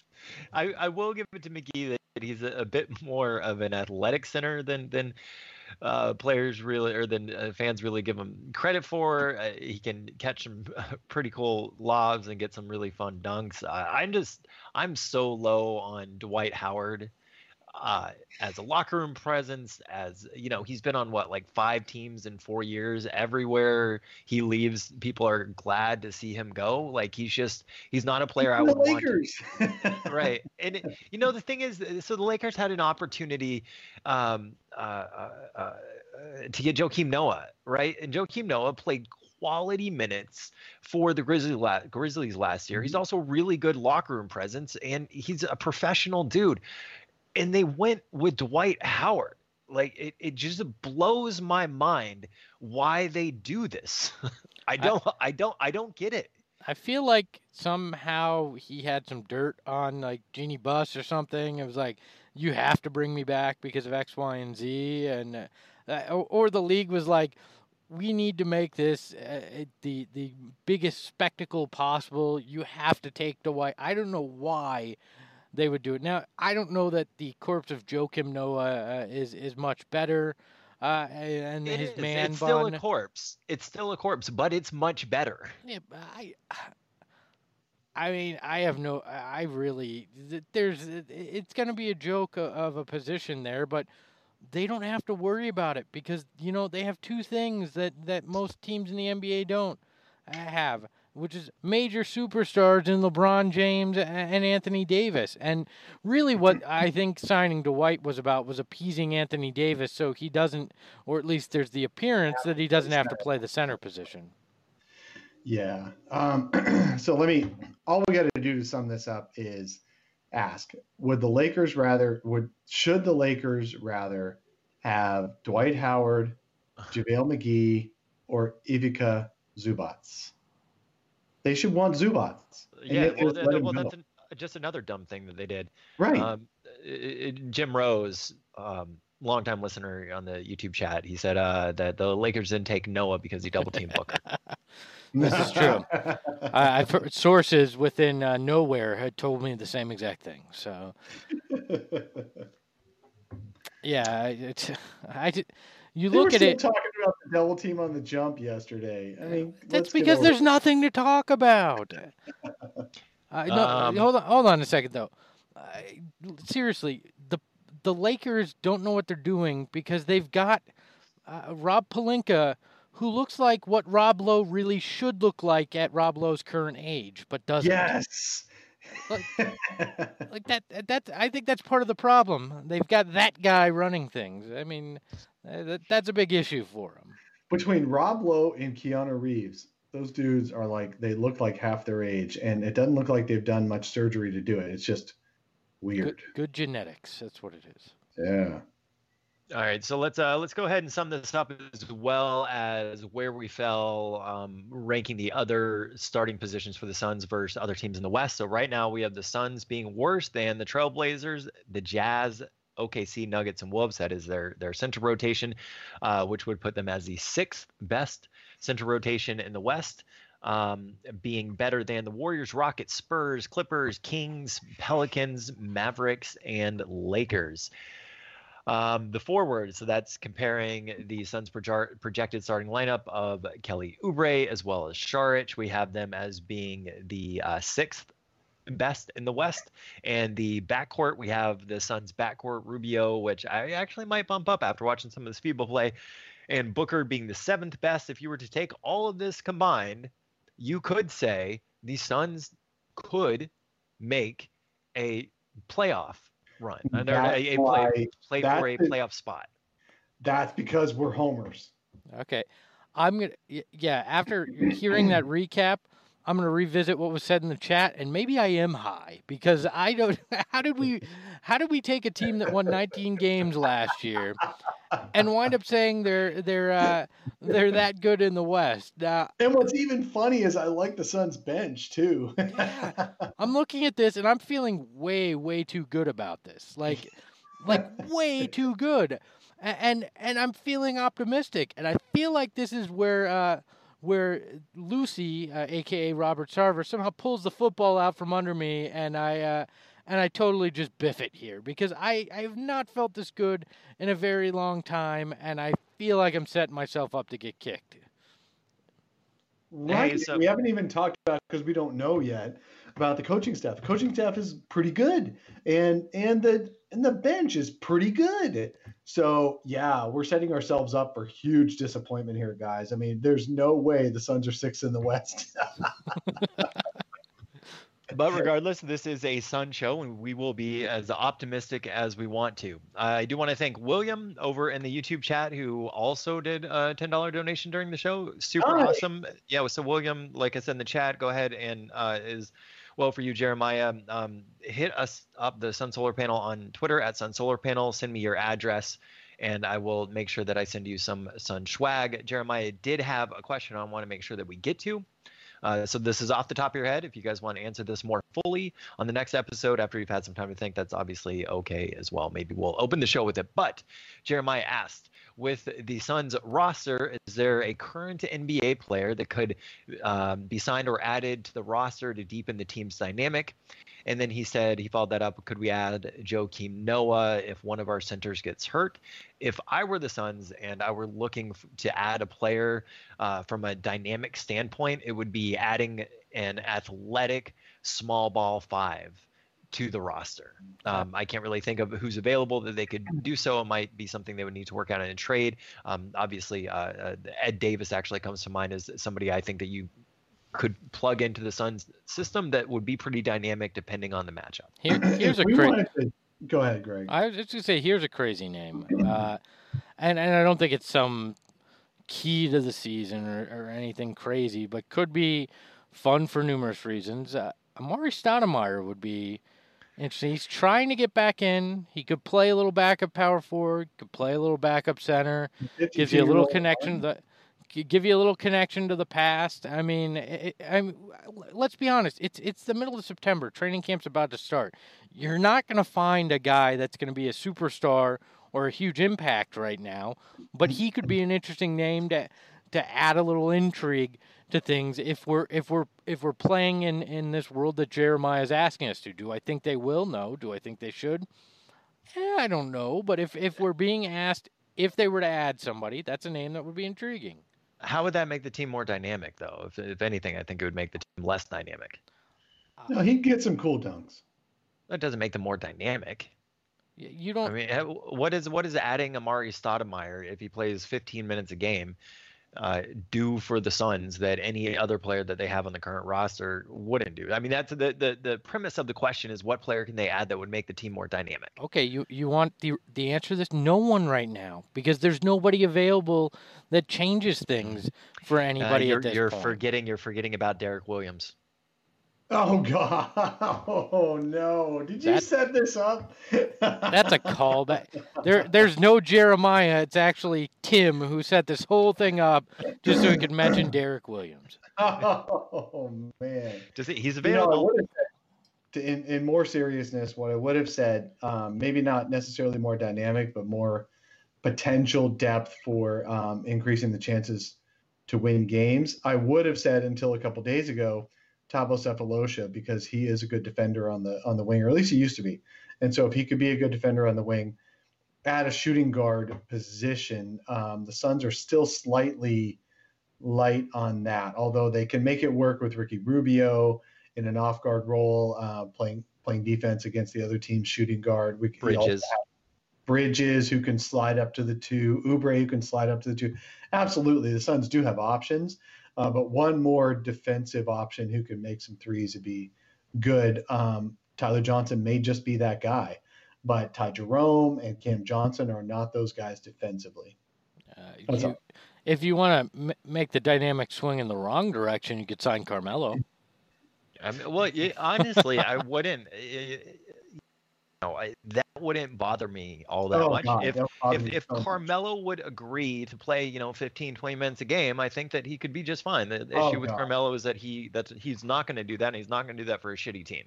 I, I will give it to McGee that he's a, a bit more of an athletic center than than uh, players really or than uh, fans really give him credit for. Uh, he can catch some pretty cool lobs and get some really fun dunks. I, I'm just I'm so low on Dwight Howard uh, as a locker room presence. As you know, he's been on what like five teams in four years. Everywhere he leaves, people are glad to see him go. Like he's just he's not a player I The would want. To, Lakers. right. And it, you know the thing is, so the Lakers had an opportunity um, uh, uh, uh, to get Joakim Noah, right? And Joakim Noah played quality minutes for the Grizzlies, la- Grizzlies last year. He's also really good locker room presence, and he's a professional dude. And they went with Dwight Howard. Like it, it just blows my mind why they do this. I don't, I, I don't, I don't get it. I feel like somehow he had some dirt on like Jeannie Buss or something. It was like, you have to bring me back because of X, Y, and Z, and uh, or, or the league was like, we need to make this uh, the the biggest spectacle possible. You have to take Dwight. I don't know why they would do it. Now, I don't know that the corpse of Joakim Noah uh, is is much better. Uh, and It his is. man It's still bun. a corpse. It's still a corpse, but it's much better. Yeah, but I, I mean, I have no. I really. There's. It's going to be a joke of a position there, but they don't have to worry about it because you know they have two things that that most teams in the N B A don't have, which is major superstars in LeBron James and Anthony Davis. And really what I think signing Dwight was about was appeasing Anthony Davis so he doesn't, or at least there's the appearance that he doesn't have to play the center position. Yeah. Um, so let me, all we got to do to sum this up is ask, would the Lakers rather, would, should the Lakers rather have Dwight Howard, JaVale McGee, or Ivica Zubats? They should want Zubats. And Yeah, yet well, just th- let th- him well go. that's an, just another dumb thing that they did. Right. Um, i- i- Jim Rose, um, longtime listener on the YouTube chat, he said uh, that the Lakers didn't take Noah because he double teamed Booker. This is true. I, I've heard sources within uh, nowhere had told me the same exact thing. So, yeah, it's, I did. You They look were at still it. talking about the double team on the jump yesterday. I mean, That's let's get because over there's nothing to talk about. Uh, no, Um, hold on, hold on a second though. Uh, seriously, the the Lakers don't know what they're doing because they've got uh, Rob Pelinka, who looks like what Rob Lowe really should look like at Rob Lowe's current age, but doesn't. Yes. Like, like that. That I think that's part of the problem. They've got that guy running things. I mean, uh, that, that's a big issue for them. Between Rob Lowe and Keanu Reeves, those dudes are like, they look like half their age, and it doesn't look like they've done much surgery to do it. It's just weird. Good, good genetics. That's what it is. Yeah. All right, so let's uh, let's go ahead and sum this up as well as where we fell, um, ranking the other starting positions for the Suns versus other teams in the West. So right now we have the Suns being worse than the Trailblazers, the Jazz, O K C, Nuggets, and Wolves. That is their their center rotation, uh, which would put them as the sixth best center rotation in the West, um, being better than the Warriors, Rockets, Spurs, Clippers, Kings, Pelicans, Mavericks, and Lakers. Um, the forward, so that's comparing the Suns' proje- projected starting lineup of Kelly Oubre as well as Saric. We have them as being the uh, sixth best in the West. And the backcourt, we have the Suns' backcourt, Rubio, which I actually might bump up after watching some of this FIBA play, and Booker being the seventh best. If you were to take all of this combined, you could say the Suns could make a playoff run, and a, a play, play for a playoff spot. That's because we're homers. Okay, I'm gonna yeah. After hearing that recap, I'm gonna revisit what was said in the chat, and maybe I am high because I don't. How did we? How did we take a team that won nineteen games last year and wind up saying they're they're uh, they're that good in the West? Now, and what's even funny is I like the Suns bench too. Yeah, I'm looking at this and I'm feeling way way too good about this. Like like way too good. And and I'm feeling optimistic, and I feel like this is where uh, where Lucy, uh, aka Robert Sarver, somehow pulls the football out from under me, and I uh, and I totally just biff it here because I, I have not felt this good in a very long time, and I feel like I'm setting myself up to get kicked. Right. Hey, so- we haven't even talked about, because we don't know yet, about the coaching staff. The coaching staff is pretty good, and and the and the bench is pretty good. So yeah, we're setting ourselves up for huge disappointment here, guys. I mean, there's no way the Suns are sixth in the West. But regardless, this is a Sun show, and we will be as optimistic as we want to. I do want to thank William over in the YouTube chat, who also did a ten dollars donation during the show. Super Hi. awesome. Yeah, so William, like I said in the chat, go ahead and uh, is, well, for you, Jeremiah, um, hit us up, the Sun Solar Panel, on Twitter at Sun Solar Panel. Send me your address, and I will make sure that I send you some Sun swag. Jeremiah did have a question I want to make sure that we get to. Uh, so this is off the top of your head. If you guys want to answer this more fully on the next episode after you've had some time to think, that's obviously okay as well. Maybe we'll open the show with it. But Jeremiah asked, with the Suns roster, is there a current N B A player that could um, be signed or added to the roster to deepen the team's dynamic? And then he said, he followed that up, could we add Joakim Noah if one of our centers gets hurt? If I were the Suns and I were looking f- to add a player uh, from a dynamic standpoint, it would be adding an athletic small ball five to the roster. Um, I can't really think of who's available that they could do so. It might be something they would need to work out in a trade. Um, obviously, uh, uh, Ed Davis actually comes to mind as somebody I think that you could plug into the Suns system that would be pretty dynamic depending on the matchup. Here, here's a We cra- wanted to- Go ahead, Greg. I was just gonna say, here's a crazy name, uh, and and I don't think it's some key to the season or, or anything crazy, but could be fun for numerous reasons. Uh, Amari Stoudemire would be interesting. He's trying to get back in. He could play a little backup power forward, could play a little backup center. Gives you a little connection to the, give you a little connection to the past. I mean, it, I'm. Let's be honest. It's it's the middle of September. Training camp's about to start. You're not going to find a guy that's going to be a superstar or a huge impact right now, but he could be an interesting name to to add a little intrigue to things if we're if we're if we're playing in, in this world that Jeremiah is asking us to. Do I think they will? No. Do I think they should? Eh, I don't know. But if, if we're being asked if they were to add somebody, that's a name that would be intriguing. How would that make the team more dynamic, though? If, if anything, I think it would make the team less dynamic. No, he'd get some cool dunks. That doesn't make them more dynamic. You don't. I mean, what is what is adding Amari Stoudemire if he plays fifteen minutes a game uh, do for the Suns that any other player that they have on the current roster wouldn't do? I mean, that's the the the premise of the question is what player can they add that would make the team more dynamic? Okay, you you want the the answer to this? No one right now, because there's nobody available that changes things for anybody uh, you're, at this you're point. forgetting you're forgetting about Derek Williams. Oh God! Oh no! Did you That- set this up? That's a callback. There, there's no Jeremiah. It's actually Tim who set this whole thing up just so he could mention Derek Williams. Oh man! Does he, he's You know, I available. would have said, to- in, in more seriousness, what I would have said, um, maybe not necessarily more dynamic, but more potential depth for um, increasing the chances to win games. I would have said until a couple days ago, Thabo Sefolosha, because he is a good defender on the on the wing, or at least he used to be. And so if he could be a good defender on the wing at a shooting guard position, um, the Suns are still slightly light on that, although they can make it work with Ricky Rubio in an off guard role, uh, playing playing defense against the other team's shooting guard. We, we also Bridges. have Bridges who can slide up to the two, Oubre who can slide up to the two. Absolutely, the Suns do have options. Uh, but one more defensive option who can make some threes would be good. Um, Tyler Johnson may just be that guy, but Ty Jerome and Cam Johnson are not those guys defensively. Uh, That's you, all. if you want to m- make the dynamic swing in the wrong direction, you could sign Carmelo. I mean, well, y- honestly, I wouldn't. y- y- No, I, that wouldn't bother me all that Oh, much. God, if that would bother if, me if so much. Carmelo would agree to play, you know, fifteen, twenty minutes a game, I think that he could be just fine. The Oh, issue with God. Carmelo is that he that he's not going to do that, and he's not going to do that for a shitty team.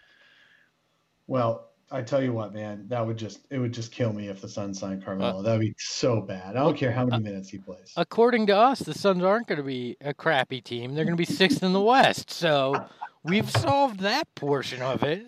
Well, I tell you what, man, that would just it would just kill me if the Suns signed Carmelo. Uh, that would be so bad. I don't care how many minutes he plays. According to us, the Suns aren't going to be a crappy team. They're going to be sixth in the West. So we've solved that portion of it.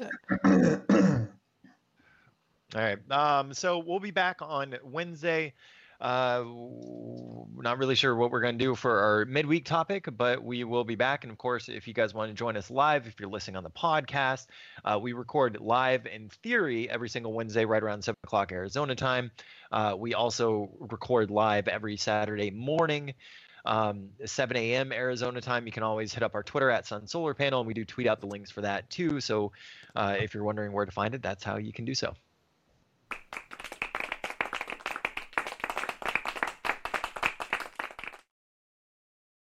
All right. Um, so we'll be back on Wednesday. Uh, we're not really sure what we're going to do for our midweek topic, but we will be back. And of course, if you guys want to join us live, if you're listening on the podcast, uh, we record live in theory every single Wednesday right around seven o'clock Arizona time. Uh, we also record live every Saturday morning. Um, seven a.m. Arizona time. You can always hit up our Twitter at Sun Solar Panel, and we do tweet out the links for that too. So uh, if you're wondering where to find it, that's how you can do so.